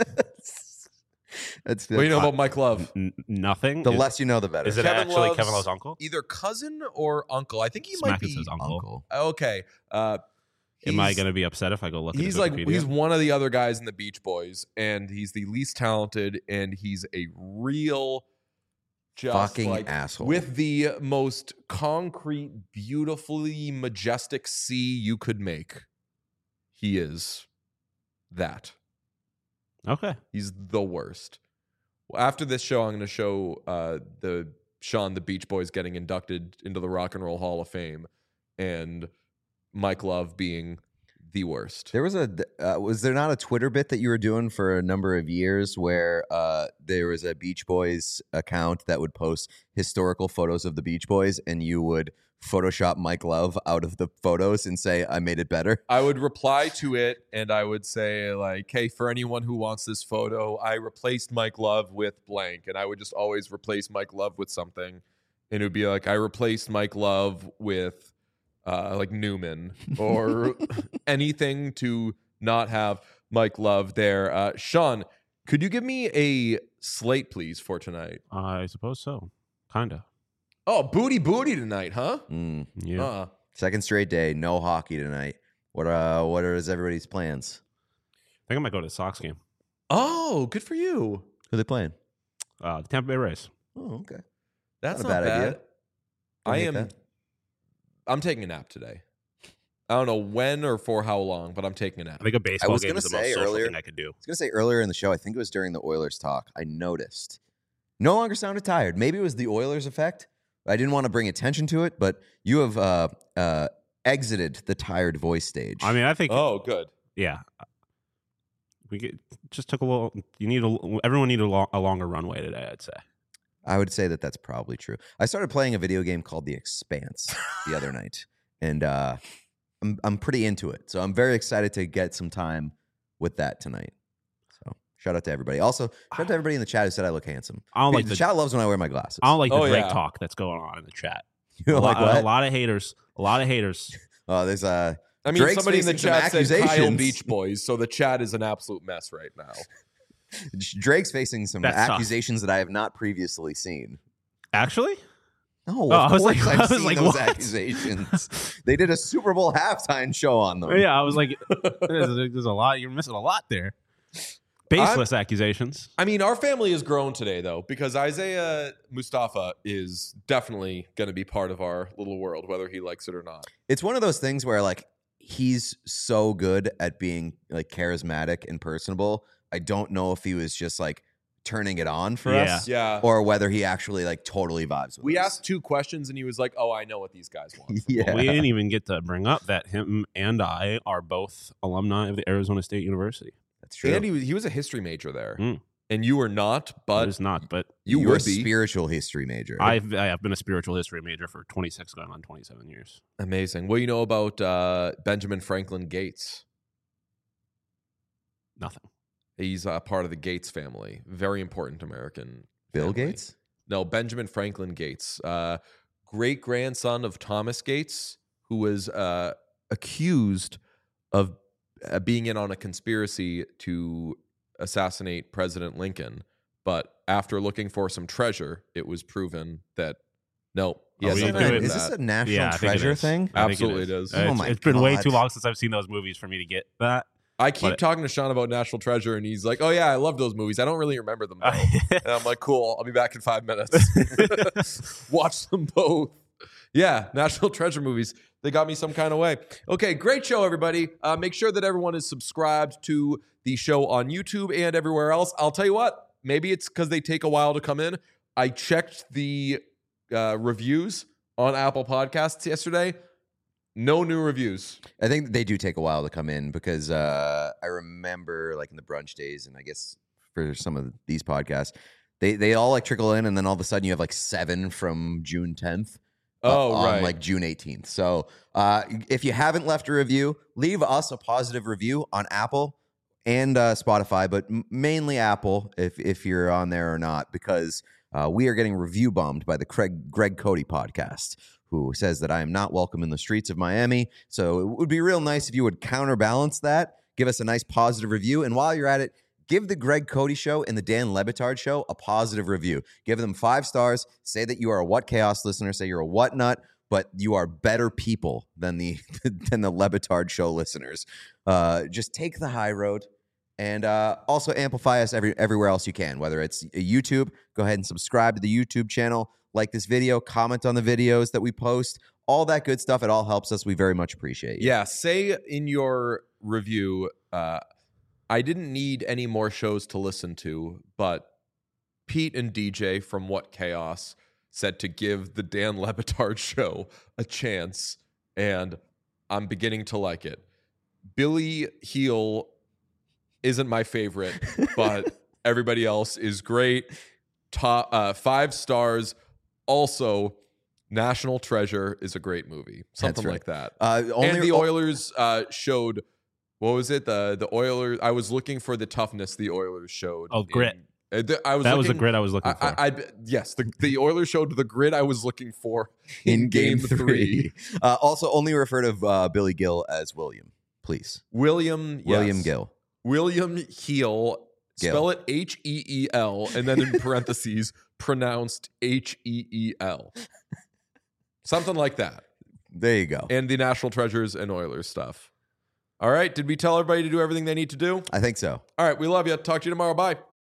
C: That's,
A: What do you know
C: that's-
A: about Mike Love?
B: N- nothing.
C: the
B: Is-
C: less you know, the better.
B: Is it
A: Kevin
B: actually
A: Love's-
B: Kevin Love's uncle?
A: Either cousin or uncle. I think he
B: Smack
A: might
B: it
A: be
B: says uncle.
C: uncle?
A: Okay. Uh,
B: Am I
A: he's-
B: going to be upset if I go look at
A: He's
B: his
A: like
B: Wikipedia?
A: he's one of the other guys in the Beach Boys, and he's the least talented, and he's a real just
C: Fucking
A: like,
C: asshole.
A: with the most concrete, beautifully majestic C you could make. He is that.
B: Okay.
A: He's the worst. After this show, I'm going to show uh, the Sean the Beach Boys getting inducted into the Rock and Roll Hall of Fame, and Mike Love being the worst.
C: There was a uh, was there not a Twitter bit that you were doing for a number of years where uh, there was a Beach Boys account that would post historical photos of the Beach Boys, and you would Photoshop Mike Love out of the photos and say, "I made it better."
A: I would reply to it and I would say, like, hey, for anyone who wants this photo, I replaced Mike Love with blank. And I would just always replace Mike Love with something. And it would be like, I replaced Mike Love with uh, like Newman or anything to not have Mike Love there. Uh, Sean, could you give me a slate, please, for tonight?
B: I suppose so. Kinda.
A: Oh, booty booty tonight, huh?
C: Mm.
B: Yeah.
A: Uh,
C: Second straight day, no hockey tonight. What uh, what are everybody's plans?
B: I think I might go to the Sox game.
A: oh, good for you.
C: Who are they playing?
B: Uh, the Tampa Bay Rays.
C: Oh, okay.
A: That's
C: Not
A: not,
C: a bad
A: bad.
C: idea. Don't
A: I
C: hate
A: am.
C: that.
A: I'm taking a nap today. I don't know when or for how long, but I'm taking a nap.
B: I think a baseball
C: was
B: game
C: gonna
B: is the most
C: say
B: social
C: earlier-
B: thing I could do.
C: I was gonna say earlier in the show, I think it was during the Oilers talk, I noticed no longer sounded tired. Maybe it was the Oilers effect. I didn't want to bring attention to it, but you have uh, uh, exited the tired voice stage.
B: I mean, I think,
A: Oh, good.
B: yeah. We get, just took a little. You need a. Everyone needed a, lo- a longer runway today. I'd say.
C: I would say that that's probably true. I started playing a video game called The Expanse the other night, and uh, I'm I'm pretty into it. So I'm very excited to get some time with that tonight. So shout out to everybody. Also, shout out to everybody in the chat who said I look handsome.
B: I don't like
C: the,
B: the.
C: chat loves when I wear my glasses.
B: I don't like the
A: Oh,
B: Drake
A: yeah.
B: talk that's going on in the chat.
C: You
B: a,
C: know, like
B: lot,
C: what?
B: a lot of haters. A lot of haters.
C: Oh, there's a.
A: I mean,
C: Drake's
A: somebody in the
C: facing some
A: chat said Kyle
C: accusations.
A: Beach Boys, so the chat is an absolute mess right now.
C: Drake's facing some
B: That's tough.
C: accusations that I have not previously seen.
B: Actually,
C: No,
B: Oh, I
C: of
B: was
C: course
B: like-
C: I've
B: I was
C: seen
B: like,
C: those
B: what?
C: accusations. They did a Super Bowl halftime show on them.
B: yeah, I was like, there's, there's a lot. You're missing a lot there. Baseless accusations.
A: I mean, our family has grown today, though, because Isaiah Mustafa is definitely going to be part of our little world, whether he likes it or not.
C: It's one of those things where like he's so good at being like charismatic and personable. I don't know if he was just like turning it on for
B: Yeah.
C: us
A: Yeah.
C: or whether he actually like totally vibes with
A: We
C: us.
A: asked two questions, and he was like, oh, I know what these guys want.
C: Yeah.
B: We didn't even get to bring up that him and I are both alumni of the Arizona State University.
C: That's true.
A: And he was, he was a history major there.
B: Mm.
A: and you are not,
B: It
A: but
B: is not, but
A: you
C: You're
A: would
C: a
A: be.
C: spiritual history major.
B: I've I have been a spiritual history major for twenty-six going on twenty-seven years.
A: Amazing. What do you know about uh, Benjamin Franklin Gates?
B: Nothing.
A: He's a part of the Gates family. Very important American.
C: Bill
A: family.
C: Gates?
A: No, Benjamin Franklin Gates. Uh, great grandson of Thomas Gates, who was uh, accused of uh, being in on a conspiracy to assassinate President Lincoln. But after looking for some treasure, it was proven that no, he
B: Are
A: has
B: we
A: nothing
B: doing-
A: to do with
C: Is this
A: that.
C: a national
B: Yeah, I think it
C: treasure
B: is.
C: thing?
B: I think
A: Absolutely it is.
B: Uh,
C: Oh
B: it's-
C: my
B: it's been way
C: God.
B: too long since I've seen those movies for me to get that.
A: I keep
B: But-
A: talking to Sean about National Treasure, and he's like, "Oh yeah, I love those movies. I don't really remember them though." And I'm like, "Cool, I'll be back in five minutes. Watch them both." Yeah, National Treasure movies. They got me some kind of way. Okay, great show, everybody. Uh, make sure that everyone is subscribed to the show on YouTube and everywhere else. I'll tell you what. Maybe it's because they take a while to come in. I checked the uh, reviews on Apple Podcasts yesterday. No new reviews.
C: I think they do take a while to come in because uh, I remember like in the brunch days, and I guess for some of these podcasts, they they all like trickle in, and then all of a sudden you have like seven from June tenth.
A: Oh,
C: on
A: right.
C: like June eighteenth. So uh, if you haven't left a review, leave us a positive review on Apple and uh, Spotify, but m- mainly Apple if if you're on there or not, because uh, we are getting review bombed by the Craig Greg Cody podcast, who says that I am not welcome in the streets of Miami. So it would be real nice if you would counterbalance that, give us a nice positive review, and while you're at it, give the Greg Cody Show and the Dan Le Batard Show a positive review. Give them five stars. Say that you are a What Chaos listener. Say you're a What Nut, but you are better people than the than the Le Batard Show listeners. Uh, just take the high road, and uh, also amplify us every everywhere else you can. Whether it's YouTube, go ahead and subscribe to the YouTube channel. Like this video, comment on the videos that we post. All that good stuff. It all helps us. We very much appreciate you.
A: Yeah, say in your review, uh, I didn't need any more shows to listen to, but Pete and D J from What Chaos said to give the Dan Le Batard Show a chance, and I'm beginning to like it. Billy Heel isn't my favorite, but everybody else is great. Top uh, five stars. Also, National Treasure is a great movie. Something
C: right.
A: like that.
C: Uh, only
A: and the Oilers uh, showed, what was it? The the Oilers. I was looking for the toughness the Oilers showed.
B: Oh, grit.
A: in- uh, the- I was
B: That
A: looking,
B: was the grid I was looking
A: I,
B: for.
A: I, I yes, the, the Oilers showed the grid I was looking for in,
C: in game three. Uh, also, only refer to uh, Billy Gill as William, please.
A: William
C: William
A: yes.
C: Gill.
A: William Heel.
C: Gill.
A: Spell it H E E L, and then in parentheses, pronounced H E E L. Something like that.
C: There you go.
A: And the National Treasures and Oilers stuff. All right. Did we tell everybody to do everything they need to do?
C: I think so.
A: All right. We love you. Talk to you tomorrow. Bye.